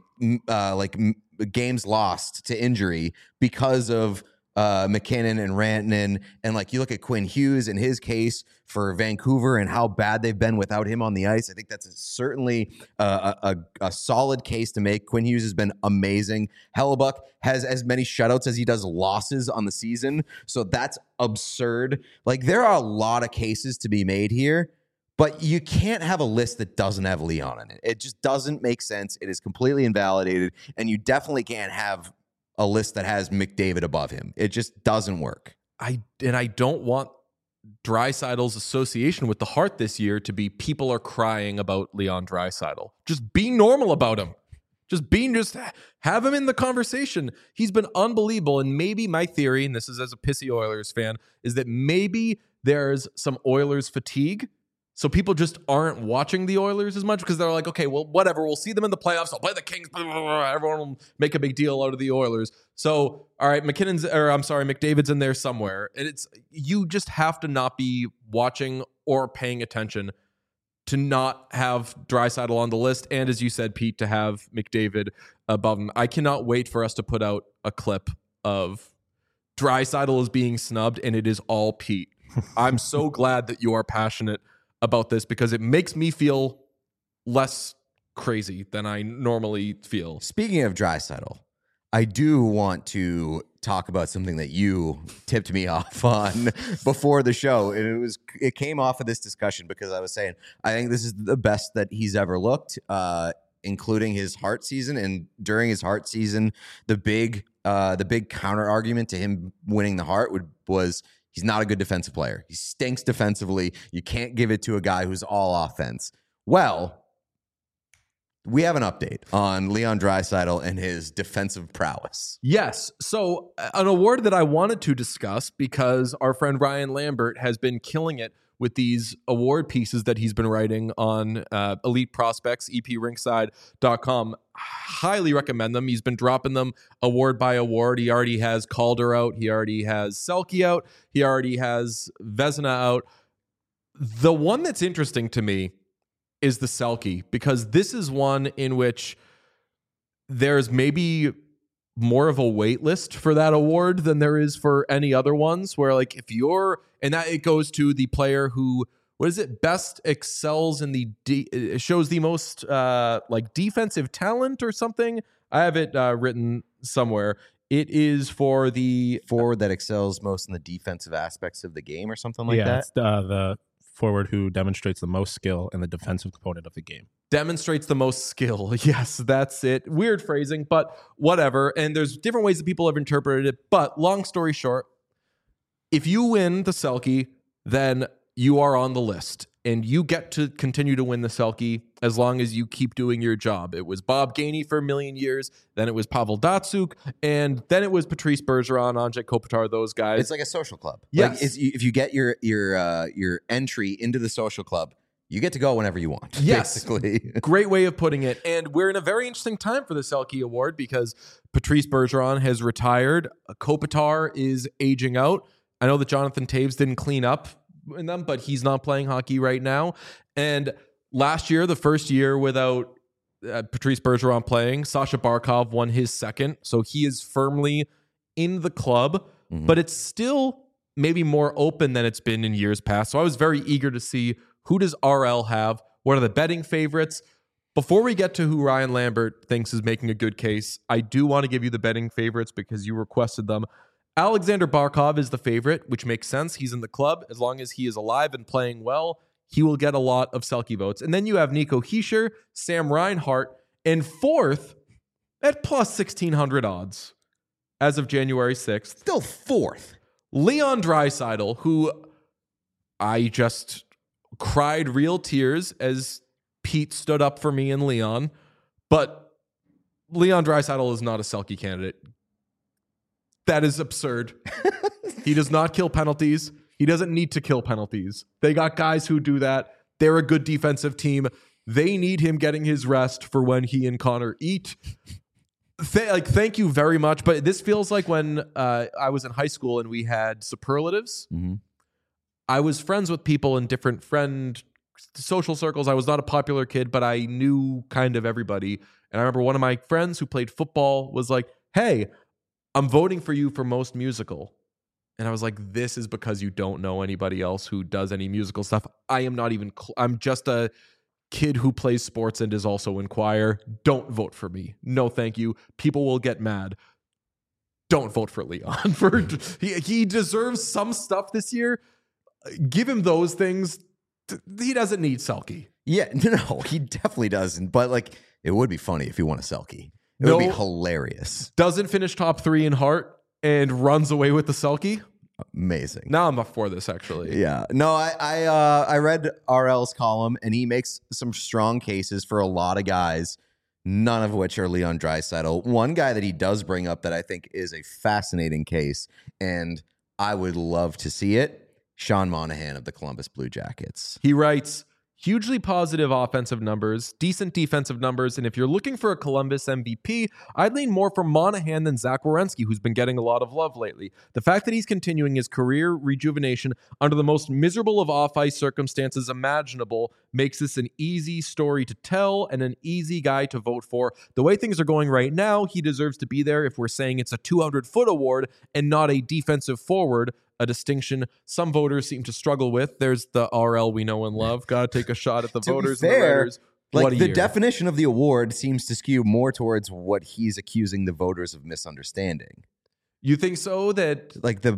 C: games lost to injury because of McKinnon and Rantanen. And like, you look at Quinn Hughes in his case for Vancouver and how bad they've been without him on the ice. I think that's certainly a solid case to make. Quinn Hughes has been amazing. Hellebuck has as many shutouts as he does losses on the season. So that's absurd. Like, there are a lot of cases to be made here, but you can't have a list that doesn't have Leon in it. It just doesn't make sense. It is completely invalidated. And you definitely can't have a list that has McDavid above him. It just doesn't work.
A: I don't want Draisaitl's association with the Hart this year to be people are crying about Leon Draisaitl. Just be normal about him. Just have him in the conversation. He's been unbelievable. And maybe my theory, and this is as a pissy Oilers fan, is that maybe there's some Oilers fatigue. So people just aren't watching the Oilers as much because they're like, okay, well, whatever. We'll see them in the playoffs. I'll play the Kings. Everyone will make a big deal out of the Oilers. So, all right, McDavid's in there somewhere. And you just have to not be watching or paying attention to not have Draisaitl on the list. And as you said, Pete, to have McDavid above him. I cannot wait for us to put out a clip of Draisaitl is being snubbed, and it is all Pete. I'm so glad that you are passionate about this because it makes me feel less crazy than I normally feel.
C: Speaking of Draisaitl, I do want to talk about something that you tipped me off on before the show. And it came off of this discussion because I was saying, I think this is the best that he's ever looked, including his Hart season. And during his Hart season, the big counter argument to him winning the Hart was he's not a good defensive player. He stinks defensively. You can't give it to a guy who's all offense. Well, we have an update on Leon Draisaitl and his defensive prowess.
A: Yes. So an award that I wanted to discuss because our friend Ryan Lambert has been killing it with these award pieces that he's been writing on Elite Prospects, EPRinkside.com. Highly recommend them. He's been dropping them award by award. He already has Calder out. He already has Selke out. He already has Vezina out. The one that's interesting to me is the Selke, because this is one in which there's maybe more of a wait list for that award than there is for any other ones, where like if you're, and that it goes to the player who, what is it, best excels in the shows the most like defensive talent or something. I have it written somewhere. It is for the
C: forward that excels most in the defensive aspects of the game or something like that.
B: It's the forward who demonstrates the most skill in the defensive component of the game.
A: Demonstrates the most skill. Yes, that's it. Weird phrasing, but whatever. And there's different ways that people have interpreted it. But long story short, if you win the Selke, then you are on the list. And you get to continue to win the Selke as long as you keep doing your job. It was Bob Gainey for a million years. Then it was Pavel Datsyuk. And then it was Patrice Bergeron, Andrzej Kopitar, those guys.
C: It's like a social club.
A: Yes.
C: Like if you get your entry into the social club, you get to go whenever you want.
A: Yes.
C: Basically.
A: Great way of putting it. And we're in a very interesting time for the Selke Award because Patrice Bergeron has retired. Kopitar is aging out. I know that Jonathan Toews didn't clean up in them, but he's not playing hockey right now. And last year, the first year without Patrice Bergeron playing, Sasha Barkov won his second. So he is firmly in the club, but it's still maybe more open than it's been in years past. So I was very eager to see, who does RL have? What are the betting favorites? Before we get to who Ryan Lambert thinks is making a good case, I do want to give you the betting favorites because you requested them. Alexander Barkov is the favorite, which makes sense. He's in the club. As long as he is alive and playing well, he will get a lot of Selke votes. And then you have Nico Hischier, Sam Reinhart, and fourth at plus 1,600 odds as of January 6th.
C: Still fourth.
A: Leon Draisaitl, who I just cried real tears as Pete stood up for me and Leon. But Leon Draisaitl is not a Selke candidate. That is absurd. He does not kill penalties. He doesn't need to kill penalties. They got guys who do that. They're a good defensive team. They need him getting his rest for when he and Connor eat. Thank you very much. But this feels like when I was in high school and we had superlatives.
C: Mm-hmm.
A: I was friends with people in different social circles. I was not a popular kid, but I knew kind of everybody. And I remember one of my friends who played football was like, hey, I'm voting for you for most musical. And I was like, this is because you don't know anybody else who does any musical stuff. I am not even, I'm just a kid who plays sports and is also in choir. Don't vote for me. No, thank you. People will get mad. Don't vote for Leon. He deserves some stuff this year. Give him those things. He doesn't need Selke.
C: Yeah, no, he definitely doesn't. But like, it would be funny if he won a Selke. It would be hilarious.
A: Doesn't finish top 3 in Hart and runs away with the Selke.
C: Amazing.
A: Now I'm up for this, actually.
C: Yeah. No, I read RL's column, and he makes some strong cases for a lot of guys, none of which are Leon Draisaitl. One guy that he does bring up that I think is a fascinating case, and I would love to see it, Sean Monahan of the Columbus Blue Jackets.
A: He writes, hugely positive offensive numbers, decent defensive numbers, and if you're looking for a Columbus MVP, I'd lean more for Monahan than Zach Werenski, who's been getting a lot of love lately. The fact that he's continuing his career rejuvenation under the most miserable of off-ice circumstances imaginable makes this an easy story to tell and an easy guy to vote for. The way things are going right now, he deserves to be there if we're saying it's a 200-foot award and not a defensive forward, a distinction some voters seem to struggle with. There's the RL we know and love. Got to take a shot at the voters and the writers.
C: Like the definition of the award seems to skew more towards what he's accusing the voters of misunderstanding.
A: You think so? That
C: like the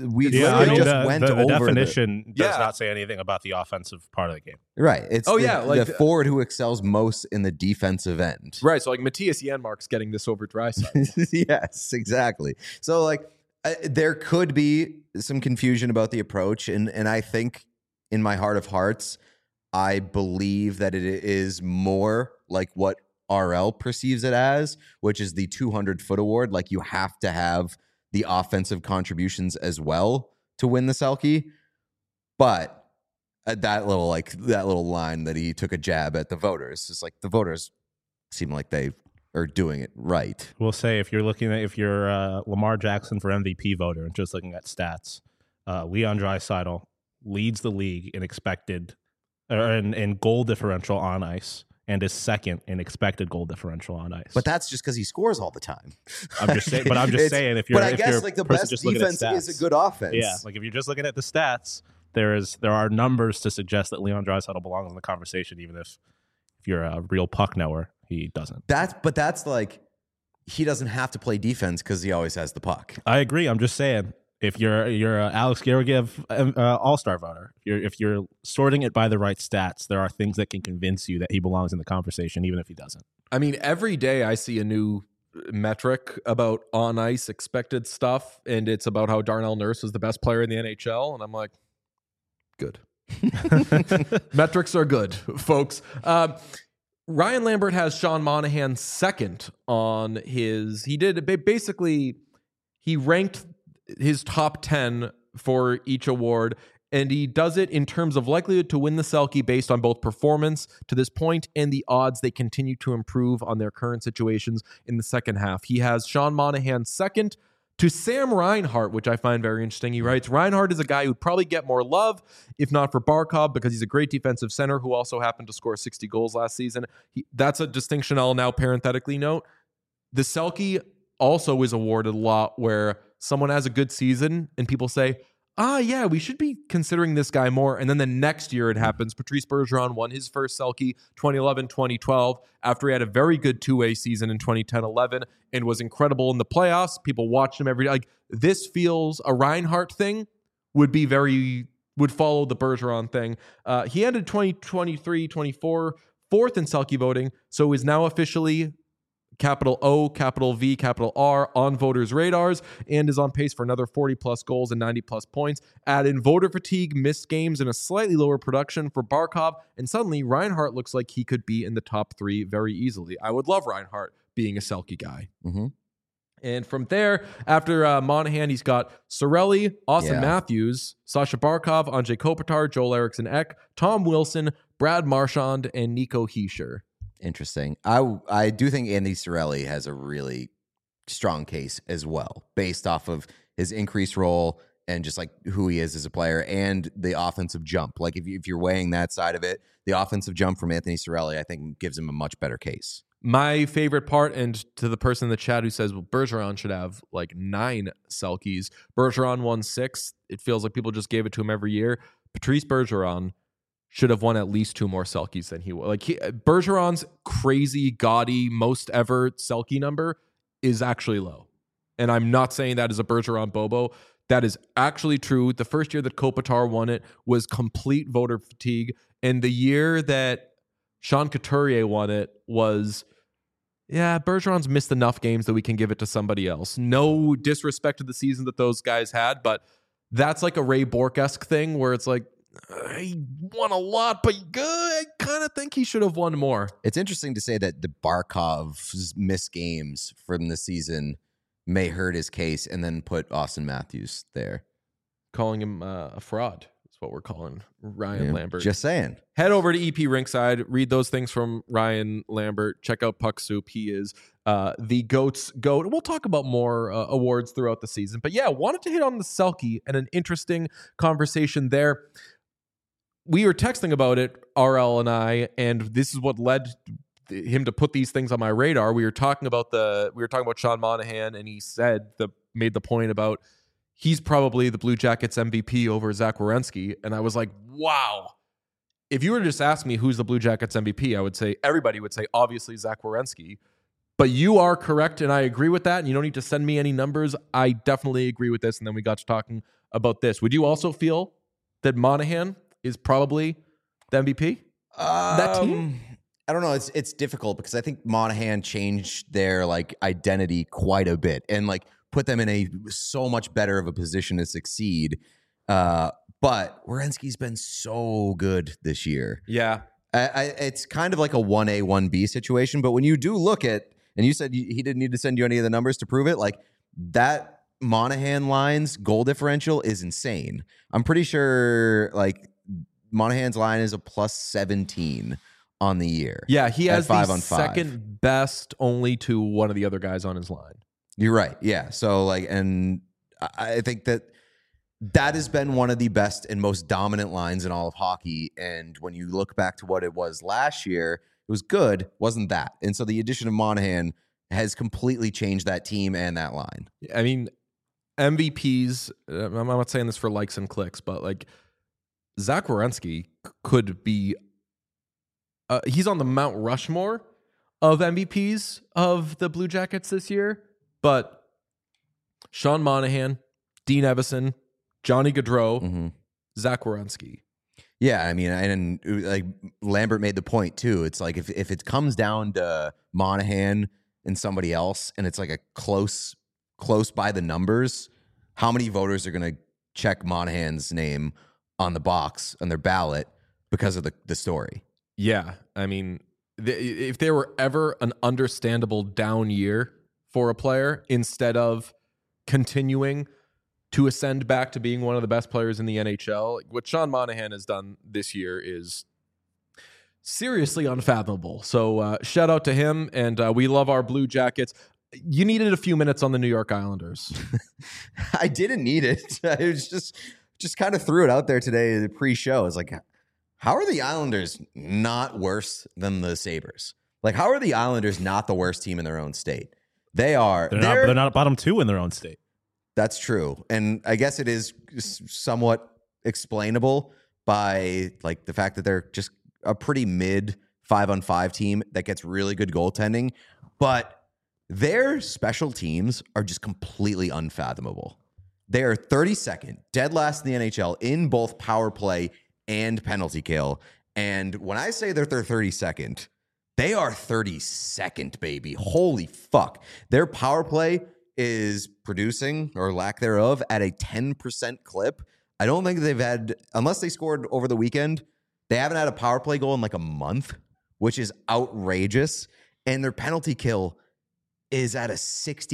B: definition does not say anything about the offensive part of the game.
C: Right. It's the forward who excels most in the defensive end.
A: Right. So like Matthias Janmark's getting this over Draisaitl.
C: Yes, exactly. So like there could be some confusion about the approach, and I think in my heart of hearts, I believe that it is more like what RL perceives it as, which is the 200-foot award. Like you have to have the offensive contributions as well to win the Selke. But that little line that he took a jab at the voters, it's like the voters seem like they are doing it right.
B: We'll say if you're Lamar Jackson for MVP voter and just looking at stats, Leon Draisaitl leads the league in expected in goal differential on ice and is second in expected goal differential on ice.
C: But that's just because he scores all the time.
B: I'm just saying. But I'm just saying if you're.
C: But I guess like the best defense is a good offense.
B: Yeah, like if you're just looking at the stats, there are numbers to suggest that Leon Draisaitl belongs in the conversation, even if you're a real puck knower, he doesn't.
C: That's like he doesn't have to play defense because he always has the puck.
B: I agree. I'm just saying. If you're a Alex Georgiev all-star voter, if you're sorting it by the right stats, there are things that can convince you that he belongs in the conversation, even if he doesn't.
A: I mean, every day I see a new metric about on-ice expected stuff, and it's about how Darnell Nurse is the best player in the NHL, and I'm like, good. Metrics are good, folks. Ryan Lambert has Sean Monahan second on his... He ranked his top 10 for each award, and he does it in terms of likelihood to win the Selke based on both performance to this point and the odds they continue to improve on their current situations in the second half. He has Sean Monahan second to Sam Reinhart, which I find very interesting. He writes, Reinhart is a guy who'd probably get more love, if not for Barkov, because he's a great defensive center who also happened to score 60 goals last season. That's a distinction I'll now parenthetically note. The Selke also is awarded a lot where someone has a good season and people say, yeah, we should be considering this guy more. And then the next year it happens. Patrice Bergeron won his first Selke 2011-2012 after he had a very good two-way season in 2010-11 and was incredible in the playoffs. People watched him every day. Like this feels a Reinhart thing would follow the Bergeron thing. He ended 2023-24 fourth in Selke voting, so is now officially capital O, capital V, capital R on voters' radars and is on pace for another 40-plus goals and 90-plus points. Add in voter fatigue, missed games, and a slightly lower production for Barkov, and suddenly Reinhart looks like he could be in the top 3 very easily. I would love Reinhart being a Selke guy.
C: Mm-hmm.
A: And from there, after Monahan, he's got Cirelli, Austin Matthews, Sasha Barkov, Anze Kopitar, Joel Eriksson Ek, Tom Wilson, Brad Marchand, and Nico Hischier.
C: Interesting. I do think Andy Cirelli has a really strong case as well, based off of his increased role and just like who he is as a player and the offensive jump. Like if you're weighing that side of it, the offensive jump from Anthony Cirelli, I think gives him a much better case.
A: My favorite part, and to the person in the chat who says, well, Bergeron should have like 9 Selkies. Bergeron won 6. It feels like people just gave it to him every year. Patrice Bergeron should have won at least 2 more Selkies than he was. Like Bergeron's crazy, gaudy, most ever Selkie number is actually low. And I'm not saying that as a Bergeron Bobo. That is actually true. The first year that Kopitar won it was complete voter fatigue. And the year that Sean Couturier won it was, Bergeron's missed enough games that we can give it to somebody else. No disrespect to the season that those guys had, but that's like a Ray Bourque-esque thing where it's like, he won a lot, but I kind of think he should have won more.
C: It's interesting to say that the Barkov's missed games from the season may hurt his case, and then put Austin Matthews there.
A: Calling him a fraud is what we're calling Ryan Lambert.
C: Just saying.
A: Head over to EP Rinkside. Read those things from Ryan Lambert. Check out Puck Soup. He is the GOAT's GOAT. We'll talk about more awards throughout the season. But wanted to hit on the Selke and an interesting conversation there. We were texting about it, RL and I, and this is what led him to put these things on my radar. We were talking about Sean Monahan, and he made the point about he's probably the Blue Jackets MVP over Zach Werenski. And I was like, wow. If you were to just ask me who's the Blue Jackets MVP, I would say everybody would say obviously Zach Werenski. But you are correct, and I agree with that. And you don't need to send me any numbers. I definitely agree with this. And then we got to talking about this. Would you also feel that Monahan is probably the MVP? That team?
C: I don't know. It's difficult because I think Monahan changed their identity quite a bit and put them in a so much better of a position to succeed. But Werenski's been so good this year.
A: Yeah.
C: It's kind of like a 1A, 1B situation. But when you do look at, and you said he didn't need to send you any of the numbers to prove it, that Monahan line's goal differential is insane. I'm pretty sure Monahan's line is a plus 17 on the year.
A: Yeah, he has the
C: 5-on-5.
A: second best only to one of the other guys on his line.
C: You're right. Yeah. So and I think that has been one of the best and most dominant lines in all of hockey. And when you look back to what it was last year, it was good, wasn't that? And so the addition of Monahan has completely changed that team and that line.
A: I mean, MVPs, I'm not saying this for likes and clicks, but Zach Werenski could be he's on the Mount Rushmore of MVPs of the Blue Jackets this year, but Sean Monahan, Dean Evison, Johnny Gaudreau, Zach Werenski.
C: Yeah, I mean, and Lambert made the point too. It's if it comes down to Monahan and somebody else, and it's a close by the numbers, how many voters are going to check Monahan's name on the box on their ballot because of the story?
A: Yeah, I mean, if there were ever an understandable down year for a player, instead of continuing to ascend back to being one of the best players in the NHL, what Sean Monahan has done this year is seriously unfathomable. So shout out to him, and we love our Blue Jackets. You needed a few minutes on the New York Islanders.
C: I didn't need it. I was just kind of threw it out there today, the pre-show. It's how are the Islanders not worse than the Sabres? How are the Islanders not the worst team in their own state? They are.
B: They're not bottom 2 in their own state.
C: That's true. And I guess it is somewhat explainable by the fact that they're just a pretty mid 5-on-5 team that gets really good goaltending, but their special teams are just completely unfathomable. They are 32nd, dead last in the NHL in both power play and penalty kill. And when I say they're 32nd, they are 32nd, baby. Holy fuck. Their power play is producing, or lack thereof, at a 10% clip. I don't think they've had, unless they scored over the weekend, they haven't had a power play goal in a month, which is outrageous. And their penalty kill is at a 64%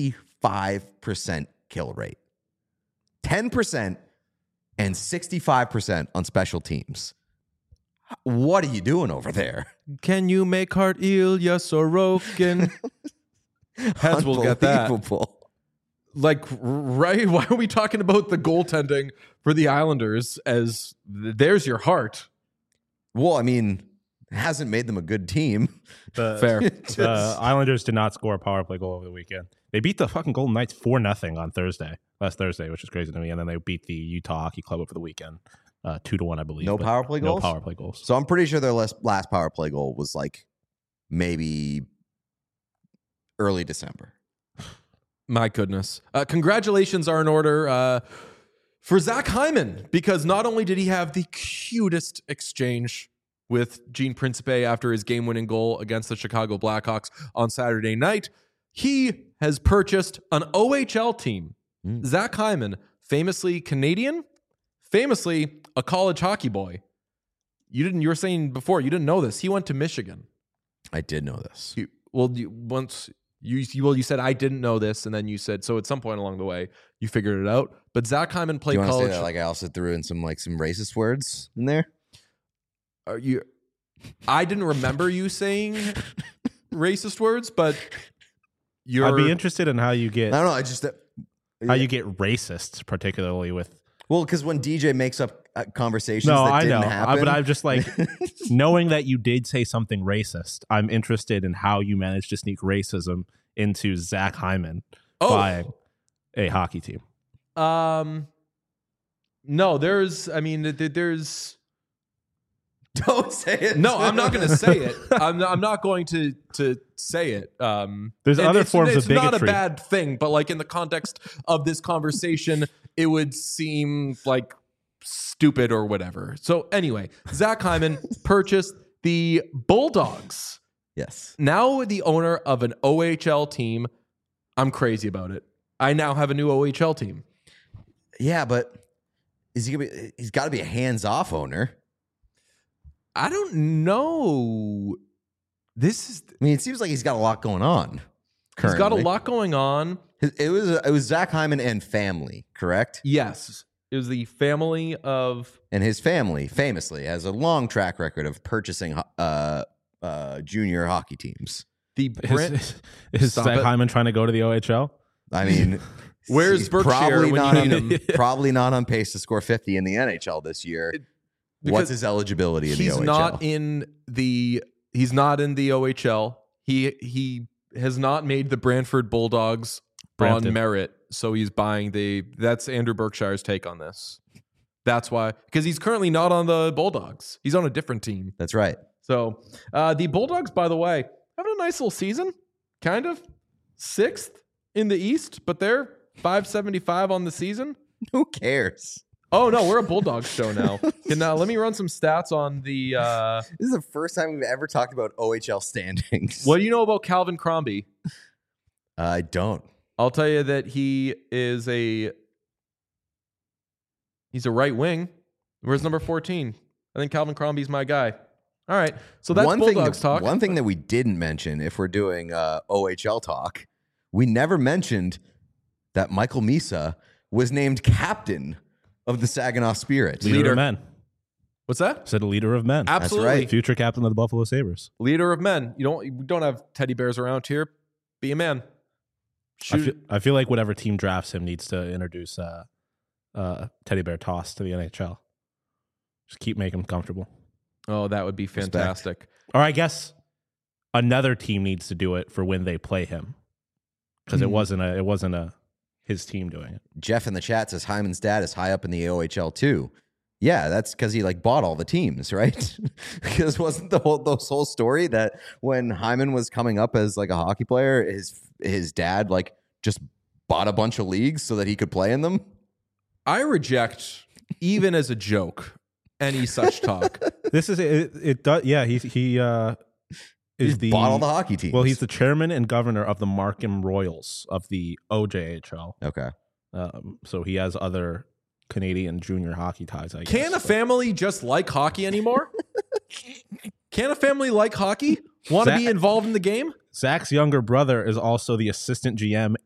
C: 65% kill rate. 10% and 65% on special teams. What are you doing over there?
A: Can you make Hart Ilya Sorokin? Heads will get that.
C: Unbelievable.
A: Like, right? Why are we talking about the goaltending for the Islanders as there's your heart?
C: Well, I mean, it hasn't made them a good team.
A: Fair.
B: The Islanders did not score a power play goal over the weekend. They beat the fucking Golden Knights 4-0 on last Thursday, which is crazy to me. And then they beat the Utah Hockey Club over the weekend, 2-1, I believe.
C: No power play goals?
B: No power play goals.
C: So I'm pretty sure their last power play goal was like maybe early December.
A: My goodness. Congratulations are in order for Zach Hyman, because not only did he have the cutest exchange with Gene Principe after his game-winning goal against the Chicago Blackhawks on Saturday night, he has purchased an OHL team. Zach Hyman, famously Canadian, famously a college hockey boy. You were saying before, you didn't know this. He went to Michigan.
C: I did know this.
A: You said I didn't know this, and then you said so. At some point along the way, you figured it out. But Zach Hyman played
C: You want to
A: college.
C: say that like I also threw in some racist words in there?
A: I didn't remember you saying racist words, but
B: I'd be interested in how you get
C: I don't know. I just
B: you get racist, particularly with.
C: well, because when DJ makes up conversations
B: No,
C: that
B: I
C: didn't
B: know,
C: happen,
B: but I'm just like knowing that you did say something racist. I'm interested in how you managed to sneak racism into Zach Hyman buying a hockey team.
A: No, there's.
C: don't say it.
A: No, I'm not going to say it. I'm not going to say it.
B: There's
A: and
B: other forms of
A: it's not a
B: bigotry.
A: bad thing, but like in the context of this conversation, it would seem like stupid or whatever. So anyway, Zach Hyman purchased the Bulldogs.
C: Yes.
A: Now the owner of an OHL team. I'm crazy about it. I now have a new OHL team.
C: Yeah, but is he gonna be? He's got to be a hands-off owner.
A: I don't know.
C: I mean, it seems like he's got a lot going on.
A: He's got a
C: currently.
A: lot going on.
C: It was Zach Hyman and family, correct?
A: Yes. It was the family of...
C: And his family famously has a long track record of purchasing junior hockey teams.
A: the Brent.
B: Is
A: Stop
B: Zach
A: it.
B: Hyman trying to go to the OHL?
C: I mean,
A: Where's
C: he's
A: Berkshire
C: probably
A: when
C: not
A: you need him?
C: probably not on pace to score 50 in the NHL this year.
A: because
C: What's his eligibility in the
A: He's
C: OHL?
A: not in the. He's not in the OHL. He has not made the Brantford Bulldogs
B: Brampton.
A: on merit, so he's buying the. That's Andrew Berkshire's take on this. That's why, because he's currently not on the Bulldogs. He's on a different team.
C: That's right.
A: So the Bulldogs, by the way, having a nice little season. Kind of 6th in the East, but they're 575 on the season.
C: Who cares?
A: Oh no, we're a Bulldogs show now. Let me run some stats on the.
C: This is the first time we've ever talked about OHL standings.
A: What do you know about Calvin Crombie?
C: I don't.
A: I'll tell you that he's a right wing. Where's number 14? I think Calvin Crombie's my guy. All right, so that's Bulldogs talk.
C: One thing that we didn't mention, if we're doing OHL talk, we never mentioned that Michael Misa was named captain of the Saginaw Spirit.
B: Leader of men.
A: What's that?
B: Said a leader of men.
A: Absolutely,
C: right.
B: Future captain of the Buffalo Sabres.
A: leader of men. We don't have teddy bears around here. Be a man.
B: I feel like whatever team drafts him needs to introduce teddy bear toss to the NHL. Just keep making him comfortable.
A: Oh, that would be fantastic.
B: Or I guess another team needs to do it for when they play him, because it wasn't his team doing it.
C: Jeff in the chat says Hyman's dad is high up in the OHL too. Yeah, that's because he bought all the teams, right? Because wasn't the whole story that when Hyman was coming up as a hockey player, his dad just bought a bunch of leagues so that he could play in them?
A: I reject, even as a joke, any such talk.
B: This is it. Does he is the
C: bought all the hockey teams.
B: Well, he's the chairman and governor of the Markham Royals of the OJHL.
C: Okay.
B: So he has other Canadian junior hockey ties, I guess.
A: Can a family just like hockey anymore? Can a family like hockey? Want to be involved in the game?
B: Zach's younger brother is also the assistant GM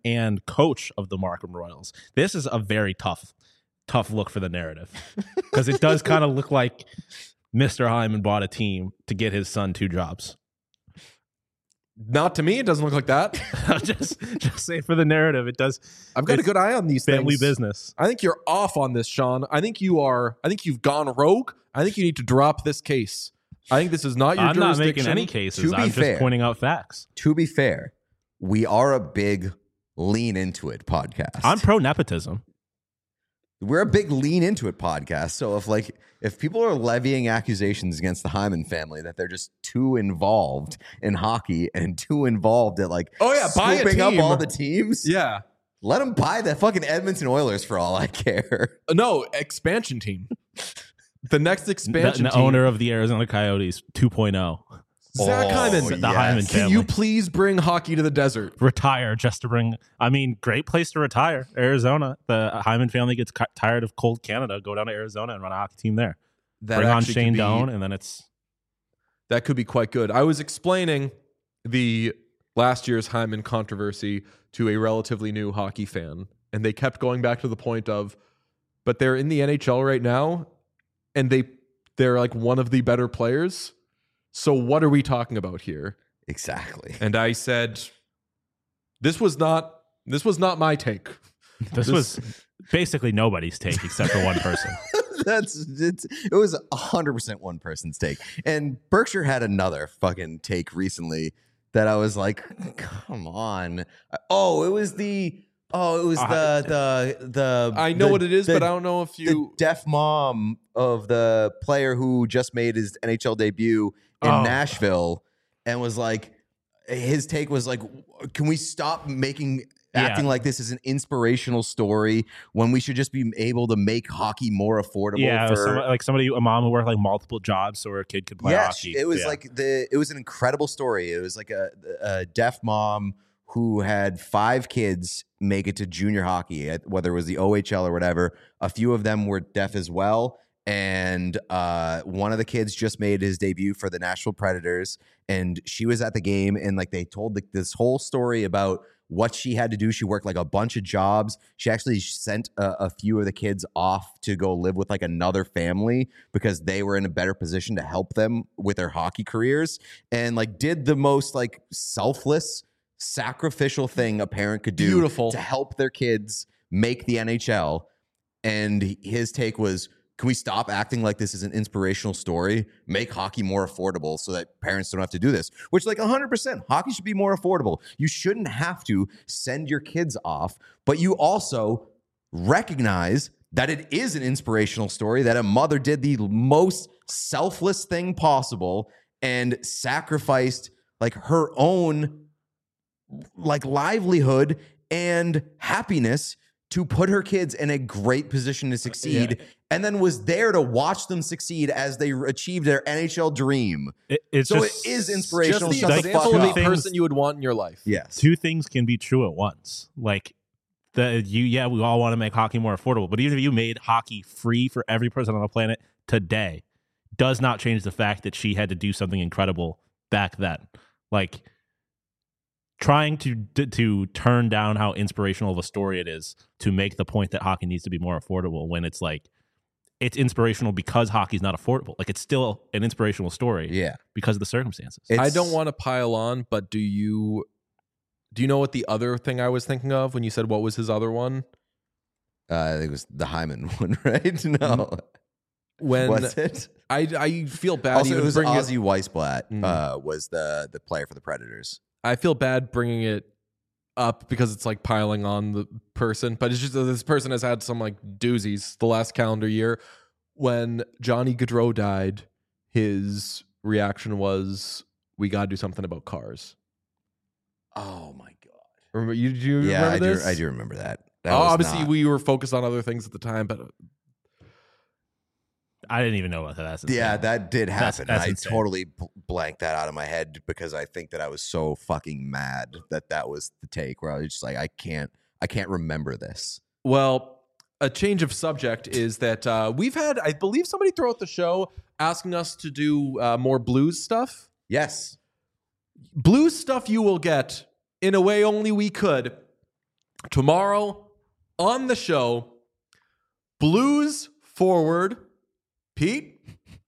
B: and coach of the Markham Royals. This is a very tough look for the narrative because it does kind of look like Mr. Hyman bought a team to get his son 2 jobs.
A: Not to me. It doesn't look like that.
B: just say for the narrative, it does.
A: I've got a good eye on these
B: family
A: things.
B: business.
A: I think you're off on this, Sean. I think you've gone rogue. I think you need to drop this case. I think this is not your
B: I'm not
A: jurisdiction.
B: making any cases.
C: To be
B: I'm
C: fair.
B: just pointing out facts.
C: To be fair, we are a big lean into it podcast.
B: I'm pro nepotism.
C: We're a big lean into it podcast. So if people are levying accusations against the Hyman family that they're just too involved in hockey and too involved at
A: buy a
C: scooping up
A: team.
C: all the teams,
A: Yeah.
C: let them buy the fucking Edmonton Oilers for all I care.
A: No, expansion team. The next expansion
B: The
A: team.
B: owner of the Arizona Coyotes 2.0.
A: Zach Hyman.
C: Oh,
B: The Hyman
C: yes.
A: Can
B: family.
A: you please bring hockey to the desert?
B: Retire just to bring. I mean, great place to retire. Arizona. The Hyman family gets tired of cold Canada. Go down to Arizona and run a hockey team there.
A: That
B: Bring on
A: actually
B: Shane
A: could be-
B: Doan, and then it's.
A: That could be quite good. I was explaining the last year's Hyman controversy to a relatively new hockey fan, and they kept going back to the point of, but they're in the NHL right now, and they're like one of the better players. So what are we talking about here?
C: Exactly.
A: And I said, this was not my take.
B: This was basically nobody's take except for one person.
C: It was 100% one person's take. And Berkshire had another fucking take recently that I was like, come on. It was the
A: I know what it is, but I don't know if
C: the
A: you.
C: deaf mom of the player who just made his NHL debut in Nashville, and was like, his take was like, can we stop acting like this is an inspirational story when we should just be able to make hockey more affordable?
B: Yeah,
C: for
B: a mom who worked like multiple jobs so her kid could play hockey.
C: It was
B: Yeah.
C: it was an incredible story. It was like a deaf mom who had 5 kids make it to junior hockey, whether it was the OHL or whatever. A few of them were deaf as well. And one of the kids just made his debut for the Nashville Predators, and she was at the game, and like they told this whole story about what she had to do. She worked like a bunch of jobs. She actually sent a few of the kids off to go live with like another family because they were in a better position to help them with their hockey careers, and like did the most like selfless, sacrificial thing a parent could do
A: Beautiful.
C: to help their kids make the NHL. And his take was, can we stop acting like this is an inspirational story? Make hockey more affordable so that parents don't have to do this. Which, like 100%, hockey should be more affordable. You shouldn't have to send your kids off, but you also recognize that it is an inspirational story, that a mother did the most selfless thing possible and sacrificed like her own like livelihood and happiness to put her kids in a great position to succeed, and then was there to watch them succeed as they achieved their NHL dream.
B: It
C: It
B: just,
C: is
A: Just
C: inspirational.
A: the
C: Shut the
A: example
C: fuck
A: of
C: up.
A: a person you would want in your life.
C: Yes.
B: two things can be true at once. Like we all want to make hockey more affordable, but even if you made hockey free for every person on the planet today, does not change the fact that she had to do something incredible back then. Like trying to turn down how inspirational of a story it is to make the point that hockey needs to be more affordable when it's like it's inspirational because hockey's not affordable. Like it's still an inspirational story
C: Yeah.
B: because of the circumstances.
A: I don't want to pile on, but do you know what the other thing I was thinking of when you said what was his other one?
C: I think it was the Hyman one, right? No.
A: When
C: What's it?
A: I feel bad
C: Also,
A: even
C: it was
A: bringing
C: Ozzy Weisblatt
A: Mm.
C: was the player for the Predators.
A: I feel bad bringing it up because it's like piling on the person, but it's just that this person has had some like doozies the last calendar year. When Johnny Gaudreau died, his reaction was, "We got to do something about cars."
C: Oh my god!
A: Remember you? Do you
C: Yeah,
A: remember this?
C: I do remember that.
A: Obviously, we were focused on other things at the time, but
B: I didn't even know about that. That's insane.
C: Yeah, that did
B: That's
C: happen. I
B: insane.
C: totally blanked that out of my head because I think that I was so fucking mad that was the take where I was just like, I can't remember this.
A: well, a change of subject is that we've had, I believe, somebody throughout the show asking us to do more blues stuff.
C: Yes.
A: Blues stuff you will get in a way only we could Tomorrow on the show, Blues forward, Pete?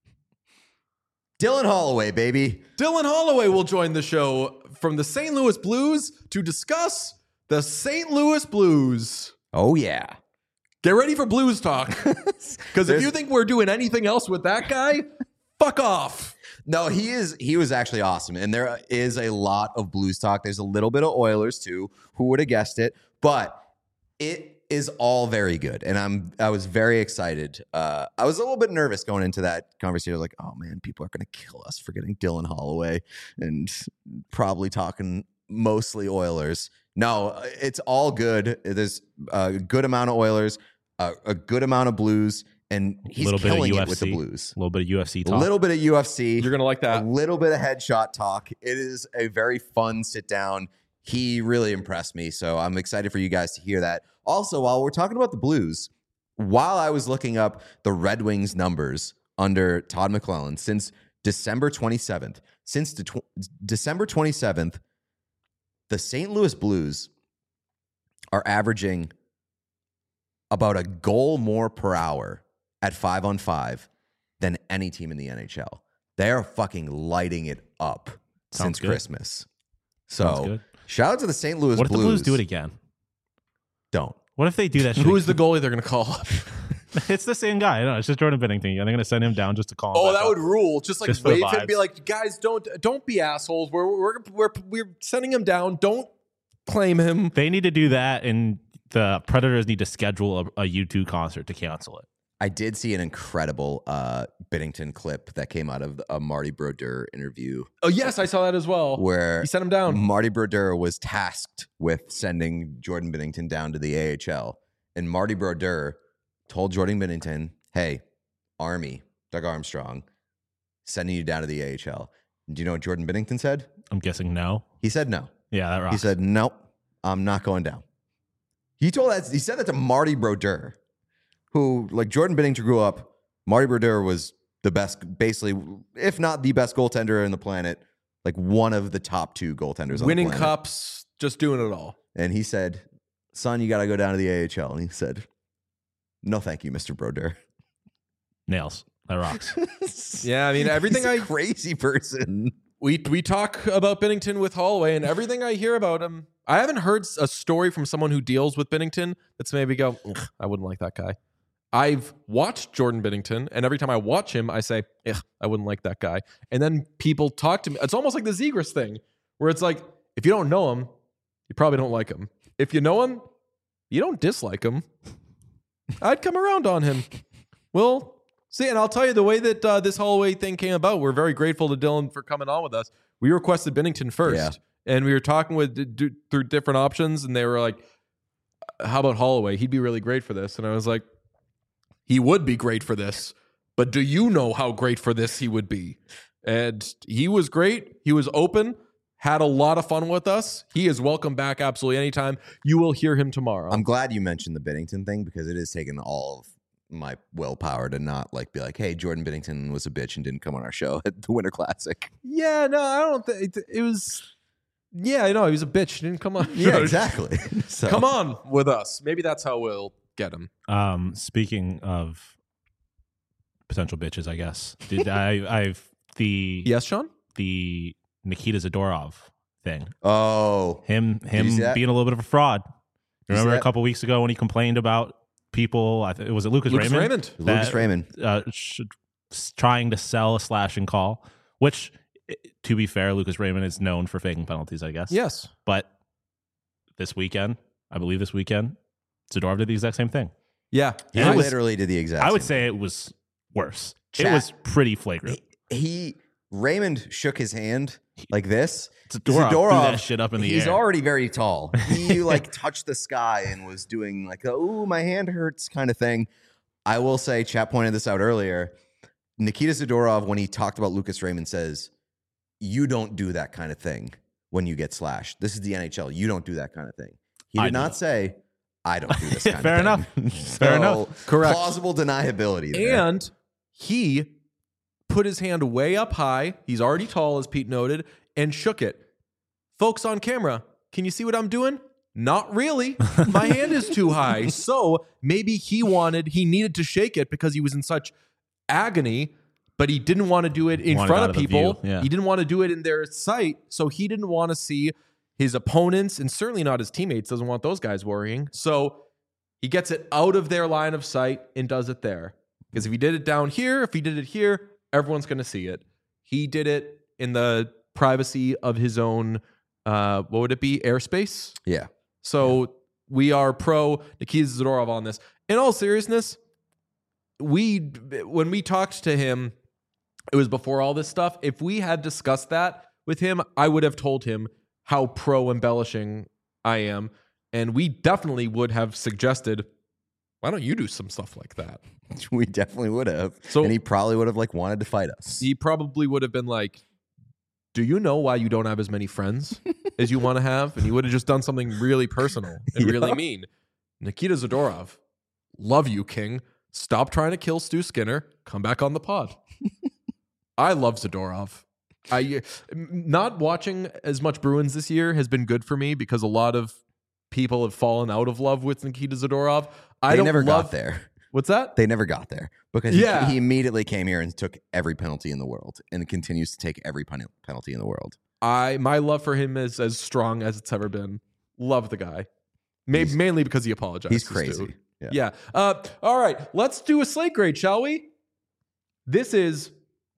C: Dylan Holloway, baby.
A: Dylan Holloway will join the show from the St. Louis Blues to discuss the St. Louis Blues.
C: Oh, yeah.
A: Get ready for Blues talk. Because if you think we're doing anything else with that guy, fuck off.
C: No, he was actually awesome. And there is a lot of Blues talk. There's a little bit of Oilers too. Who would have guessed it? But it is all very good. And I was very excited. I was a little bit nervous going into that conversation. I was like, oh man, people are going to kill us for getting Dylan Holloway and probably talking mostly Oilers. No, it's all good. There's a good amount of Oilers, a good amount of Blues, and he's killing it with the Blues.
B: A little bit of UFC talk.
C: A little bit of UFC.
A: You're going to like that.
C: A little bit of headshot talk. It is a very fun sit down. He really impressed me, so I'm excited for you guys to hear that. Also, while we're talking about the Blues, while I was looking up the Red Wings numbers under Todd McClellan since December 27th, December 27th, the St. Louis Blues are averaging about a goal more per hour at 5-on-5 than any team in the NHL. They are fucking lighting it up since Christmas. So shout out to the St. Louis Blues.
B: What if the Blues do it again?
C: Don't.
B: What if they do that shit?
A: Who's the goalie they're going to call up?
B: It's the same guy. No, it's just Jordan Binnington. They're going to send him down just to call him.
A: Oh,
B: back
A: that
B: up.
A: would rule. Just like
B: Just for the
A: wave him and be
B: vibes.
A: like, guys, don't be assholes. We're sending him down. Don't claim him.
B: They need to do that, and the Predators need to schedule a U2 concert to cancel it.
C: I did see an incredible Binnington clip that came out of a Marty Brodeur interview
A: Oh, yes, I saw that as well.
C: where
A: He sent him down.
C: Marty Brodeur was tasked with sending Jordan Binnington down to the AHL. And Marty Brodeur told Jordan Binnington, hey, Army, Doug Armstrong, sending you down to the AHL. Do you know what Jordan Binnington said?
B: I'm guessing no.
C: He said no.
B: Yeah, that rocks.
C: He said, nope, I'm not going down. He said that to Marty Brodeur, who, like, Jordan Binnington grew up. Marty Brodeur was the best, basically, if not the best goaltender on the planet, like one of the top two goaltenders on
A: Winning
C: the planet.
A: cups, just doing it all.
C: And he said, son, you got to go down to the AHL. And he said, no, thank you, Mr. Brodeur.
B: Nails. That rocks.
A: Yeah, I mean, everything
C: He's a crazy person.
A: We talk about Binnington with Holloway, and everything I hear about him, I haven't heard a story from someone who deals with Binnington that's made me go, "Ugh, I wouldn't like that guy. I've watched Jordan Binnington, and every time I watch him, I say, ugh, I wouldn't like that guy. And then people talk to me. It's almost like the Zegras thing, where it's like, if you don't know him, you probably don't like him. If you know him, you don't dislike him. I'd come around on him. Well, see, and I'll tell you the way that this Holloway thing came about. We're very grateful to Dylan for coming on with us. We requested Binnington first, and we were talking through different options, and they were like, "How about Holloway? He'd be really great for this." And I was like, "He would be great for this, but do you know how great for this he would be?" And he was great. He was open. Had a lot of fun with us. He is welcome back absolutely anytime. You will hear him tomorrow.
C: I'm glad you mentioned the Binnington thing because it has taken all of my willpower to not like be like, hey, Jordan Binnington was a bitch and didn't come on our show at the Winter Classic.
A: Yeah, no, I don't think it was. Yeah, I know he was a bitch. He didn't come on.
C: Yeah, exactly. So,
A: Come on with us. Maybe that's how we'll get him.
B: Speaking of potential bitches, I guess. I've the
A: Yes, Sean.
B: the Nikita Zadorov thing.
C: Oh,
B: Him
C: you see that?
B: being a little bit of a fraud.
C: You see
B: Remember a
C: that?
B: couple weeks ago when he complained about people? Was it Lucas Raymond?
C: Lucas Raymond.
B: Trying to sell a slash and call, which, to be fair, Lucas Raymond is known for faking penalties, I guess.
A: Yes.
B: But I believe this weekend, Zadorov did the exact same thing.
A: Yeah.
C: He
B: And it was-
C: literally did the exact
B: I would
C: same
B: say it was worse.
C: Chat.
B: It was pretty flagrant.
C: Raymond shook his hand like this.
B: Zadorov threw that shit up in the
C: he's
B: air.
C: already very tall. He like touched the sky and was doing like, ooh, my hand hurts kind of thing. I will say, chat pointed this out earlier. Nikita Zadorov, when he talked about Lucas Raymond, says, you don't do that kind of thing when you get slashed. This is the NHL. You don't do that kind of thing. He
B: I
C: did
B: do.
C: not say, I don't do this kind
B: Fair
C: of thing.
B: enough. Fair enough.
A: Correct.
C: Plausible deniability there.
A: And he put his hand way up high. He's already tall, as Pete noted, and shook it. Folks on camera, can you see what I'm doing? not really. My hand is too high. So maybe he needed to shake it because he was in such agony, but he didn't want to do it in front of people.
B: Yeah.
A: He didn't want to do it in their sight. So he didn't want to see his opponents and certainly not his teammates. Doesn't want those guys worrying. So he gets it out of their line of sight and does it there. Because if he did it down here, if he did it here, everyone's going to see it. He did it in the privacy of his own, what would it be? Airspace?
C: Yeah.
A: So we are pro Nikita Zadorov on this. In all seriousness, when we talked to him, it was before all this stuff. If we had discussed that with him, I would have told him how pro embellishing I am. And we definitely would have suggested, why don't you do some stuff like that?
C: We definitely would have.
A: So-
C: and he probably would have wanted to fight us.
A: He probably would have been like, do you know why you don't have as many friends as you want to have? And he would have just done something really personal and really mean. Nikita Zadorov, love you, King. Stop trying to kill Stu Skinner. Come back on the pod. I love Zadorov. Not watching as much Bruins this year has been good for me because a lot of people have fallen out of love with Nikita Zadorov.
C: They never got there.
A: What's that?
C: They never got there because he immediately came here and took every penalty in the world and continues to take every penalty in the world.
A: My love for him is as strong as it's ever been. Love the guy. Mainly because he apologized.
C: He's
A: to
C: crazy.
A: Stu.
C: Yeah.
A: All right. Let's do a slate grade, shall we? This is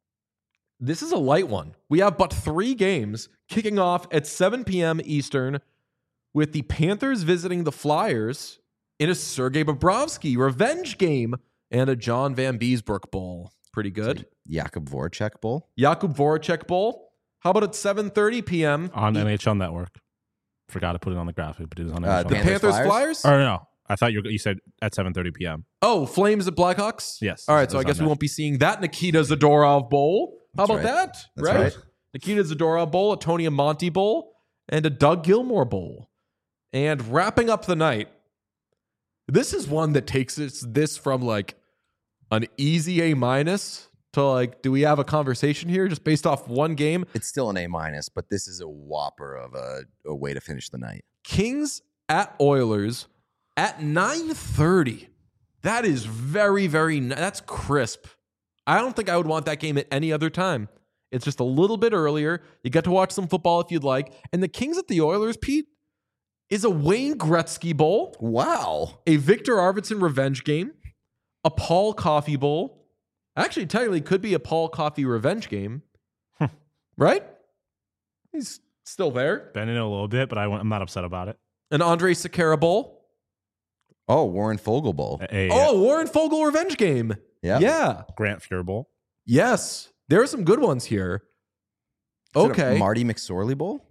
A: a light one. We have but 3 games kicking off at 7 p.m. Eastern with the Panthers visiting the Flyers in a Sergei Bobrovsky revenge game and a John Van Beesbrook Bowl. Pretty good.
C: Jakub Voracek Bowl.
A: Jakub Voracek Bowl. How about at 7:30 p.m.
B: On NHL Network. Forgot to put it on the graphic, but it is on NHL
A: The
B: Network.
A: Panthers Flyers?
B: Or no, I thought you said at 7:30 p.m.
A: Oh, Flames at Blackhawks?
B: Yes.
A: All right, so I
B: It's
A: guess
B: on
A: we
B: that.
A: won't be seeing that Nikita Zadorov Bowl. How about
C: right.
A: that?
C: That's right.
A: Nikita Zadorov Bowl, a Tony Amonte Bowl, and a Doug Gilmour Bowl. And wrapping up the night, this is one that takes this from like an easy A- to like, do we have a conversation here just based off one game?
C: It's still an A-, but this is a whopper of a way to finish the night.
A: Kings at Oilers at 9:30. That is very, very, that's crisp. I don't think I would want that game at any other time. It's just a little bit earlier. You get to watch some football if you'd like. And the Kings at the Oilers, Pete, is a Wayne Gretzky Bowl,
C: Wow.
A: a Victor Arvidsson revenge game, a Paul Coffey Bowl. Actually, technically, could be a Paul Coffey revenge game. Right? He's still there.
B: Bending it a little bit, but I'm not upset about it.
A: An Andre Sekera Bowl.
C: Oh, Warren Fogle Bowl.
A: Oh, Warren Fogle revenge game.
C: Yeah.
A: Yeah.
B: Grant Fuhr Bowl.
A: Yes. There are some good ones here.
C: Is it a
A: Okay.
C: Marty McSorley Bowl?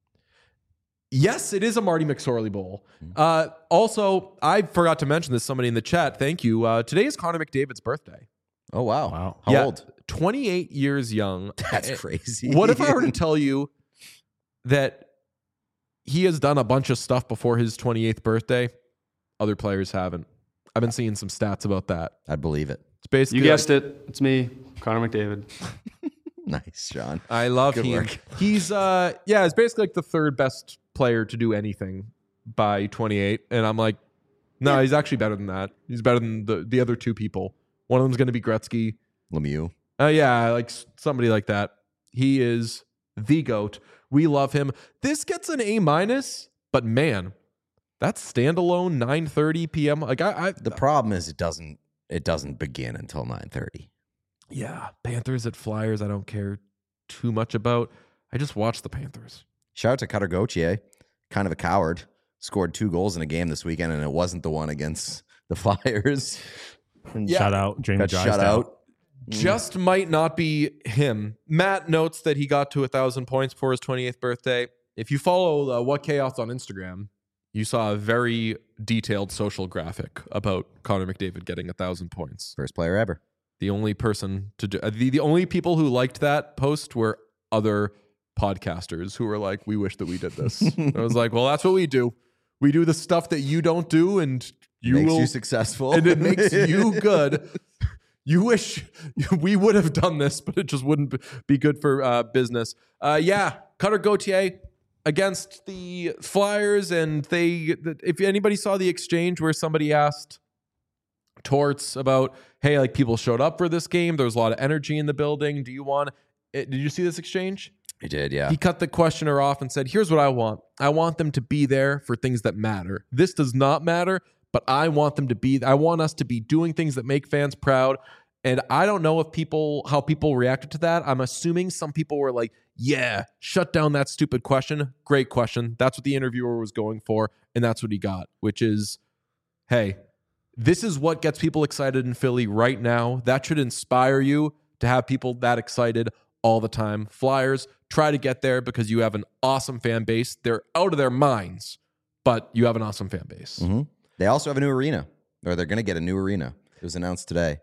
A: Yes, it is a Marty McSorley Bowl. Also, I forgot to mention this, somebody in the chat. Thank you. Today is Connor McDavid's birthday.
C: Oh, wow.
B: Wow.
C: How old?
A: 28 years young.
C: That's crazy.
A: What if I were to tell you that he has done a bunch of stuff before his 28th birthday? Other players haven't. I've been seeing some stats about that.
C: I'd believe it.
A: It's basically
G: You guessed it. It's me, Connor McDavid.
C: Nice, Sean.
A: I love
C: Good
A: him.
C: work.
A: He's it's basically like the 3rd best player to do anything by 28. And I'm like, no, he's actually better than that. He's better than the other 2 people. One of them's going to be Gretzky.
C: Lemieux.
A: Yeah, like somebody like that. He is the GOAT. We love him. This gets an A-, but man, that's standalone 9:30 p.m. Like
C: The problem is it doesn't begin until 9:30.
A: yeah, Panthers at Flyers. I don't care too much about. I just watch the Panthers.
C: Shout out to Cutter Gauthier, kind of a coward. Scored 2 goals in a game this weekend, and it wasn't the one against the Flyers. And
B: Shout out Jamie
C: got shut out.
A: Just might not be him. Matt notes that he got to 1,000 points for his 28th birthday. If you follow What Chaos on Instagram, you saw a very detailed social graphic about Connor McDavid getting 1,000 points.
C: First player ever.
A: The only person to do the only people who liked that post were other podcasters who were like, "We wish that we did this." I was like, "Well, that's what we do. We do the stuff that you don't do, and
C: Makes you successful.
A: and it makes you good." You wish we would have done this, but it just wouldn't be good for business. Cutter Gauthier, against the Flyers, and if anybody saw the exchange where somebody asked Torts about, hey, like people showed up for this game, there was a lot of energy in the building. Do you want it? Did you see this exchange?
C: I did, yeah.
A: He cut the questioner off and said, here's what I want. I want them to be there for things that matter. This does not matter, but I want them to be. I want us to be doing things that make fans proud. And I don't know how people reacted to that. I'm assuming some people were like, yeah, shut down that stupid question. Great question. That's what the interviewer was going for. And that's what he got, which is, hey, this is what gets people excited in Philly right now. That should inspire you to have people that excited all the time. Flyers, try to get there because you have an awesome fan base. They're out of their minds, but you have an awesome fan base.
C: Mm-hmm. They also have a new arena, or they're going to get a new arena. It was announced today.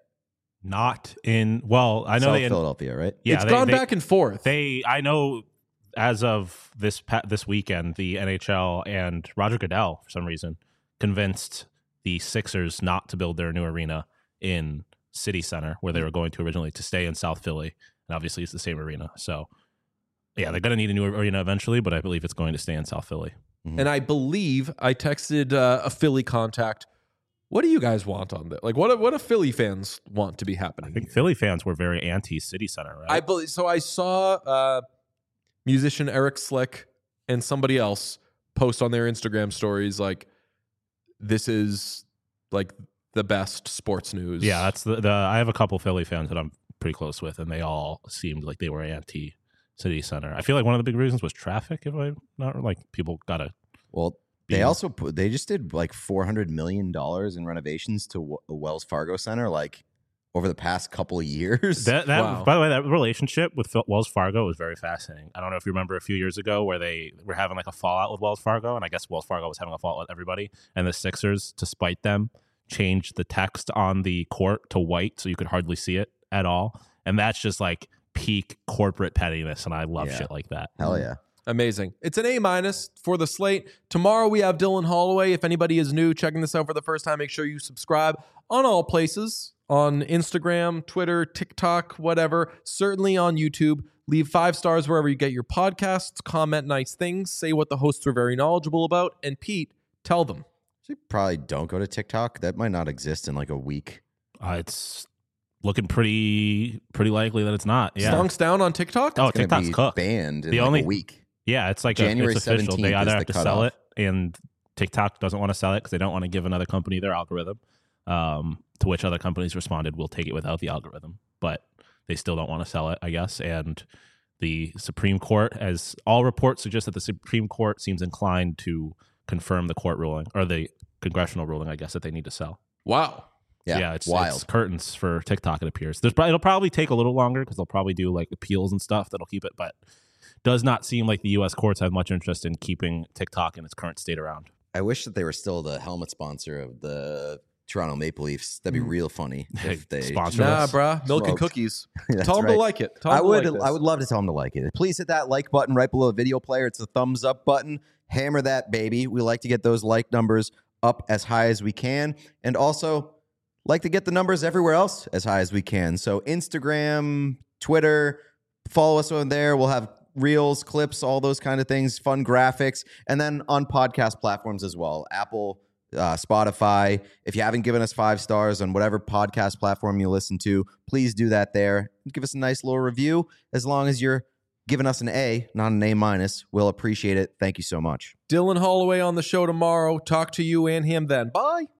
B: Not in, well, I know
C: South Philadelphia, right?
B: Yeah,
A: it's gone back and forth.
B: I know as of this weekend, the NHL and Roger Goodell, for some reason, convinced the Sixers not to build their new arena in City Center, where they were going to originally, to stay in South Philly. And obviously, it's the same arena. So, yeah, they're going to need a new arena eventually, but I believe it's going to stay in South Philly.
A: Mm-hmm. And I believe I texted a Philly contact. What do you guys want on that? Like, what do Philly fans want to be happening?
B: I think Philly fans were very anti-City Center, right?
A: I believe so. I saw musician Eric Slick and somebody else post on their Instagram stories like, "This is like the best sports news."
B: Yeah, that's the. I have a couple Philly fans that I'm pretty close with, and they all seemed like they were anti-City Center. I feel like one of the big reasons was traffic. If I'm not like, people gotta.
C: Well, they just did like $400 million in renovations to Wells Fargo Center, like over the past couple of years.
B: Wow. By the way, that relationship with Wells Fargo was very fascinating. I don't know if you remember a few years ago where they were having like a fallout with Wells Fargo, and I guess Wells Fargo was having a fallout with everybody, and the Sixers, to spite them, changed the text on the court to white so you could hardly see it at all. And that's just like peak corporate pettiness, and I love shit like that.
C: Hell yeah.
A: Amazing. It's an A- for the slate. Tomorrow we have Dylan Holloway. If anybody is new, checking this out for the first time, make sure you subscribe on all places, on Instagram, Twitter, TikTok, whatever. Certainly on YouTube. Leave 5 stars wherever you get your podcasts. Comment nice things. Say what the hosts are very knowledgeable about. And Pete, tell them.
C: So probably don't go to TikTok. That might not exist in like a week.
B: It's looking pretty likely that it's not. Yeah.
A: Stonks down on TikTok?
B: Oh, TikTok's cooked.
C: Banned in like a week.
B: Yeah, it's like
C: January
B: it's official.
C: 17th
B: They either have to sell
C: cutoff.
B: it, and TikTok doesn't want to sell it because they don't want to give another company their algorithm. To which other companies responded, "We'll take it without the algorithm," but they still don't want to sell it, I guess. And the Supreme Court, as all reports suggest, that the Supreme Court seems inclined to confirm the court ruling, or the congressional ruling, I guess, that they need to sell.
A: Wow.
C: Yeah,
B: So yeah, it's
C: wild.
B: It's curtains for TikTok. It appears it'll probably take a little longer because they'll probably do like appeals and stuff that'll keep it, but does not seem like the U.S. courts have much interest in keeping TikTok in its current state around.
C: I wish that they were still the helmet sponsor of the Toronto Maple Leafs. That'd be real funny if they
B: Sponsor
A: Nah,
B: us.
A: bruh. Milk and
C: Smoked.
A: cookies.
C: That's
A: Tell them to
C: right.
A: like it.
C: I would love to tell them to like it. Please hit that like button right below the video player. It's the thumbs up button. Hammer that, baby. We like to get those like numbers up as high as we can, and also like to get the numbers everywhere else as high as we can. So Instagram, Twitter, follow us on there. We'll have reels, clips, all those kind of things, fun graphics, and then on podcast platforms as well. Apple, Spotify. If you haven't given us 5 stars on whatever podcast platform you listen to, please do that there. Give us a nice little review. As long as you're giving us an A, not an A-, we'll appreciate it. Thank you so much.
A: Dylan Holloway on the show tomorrow. Talk to you and him then. Bye.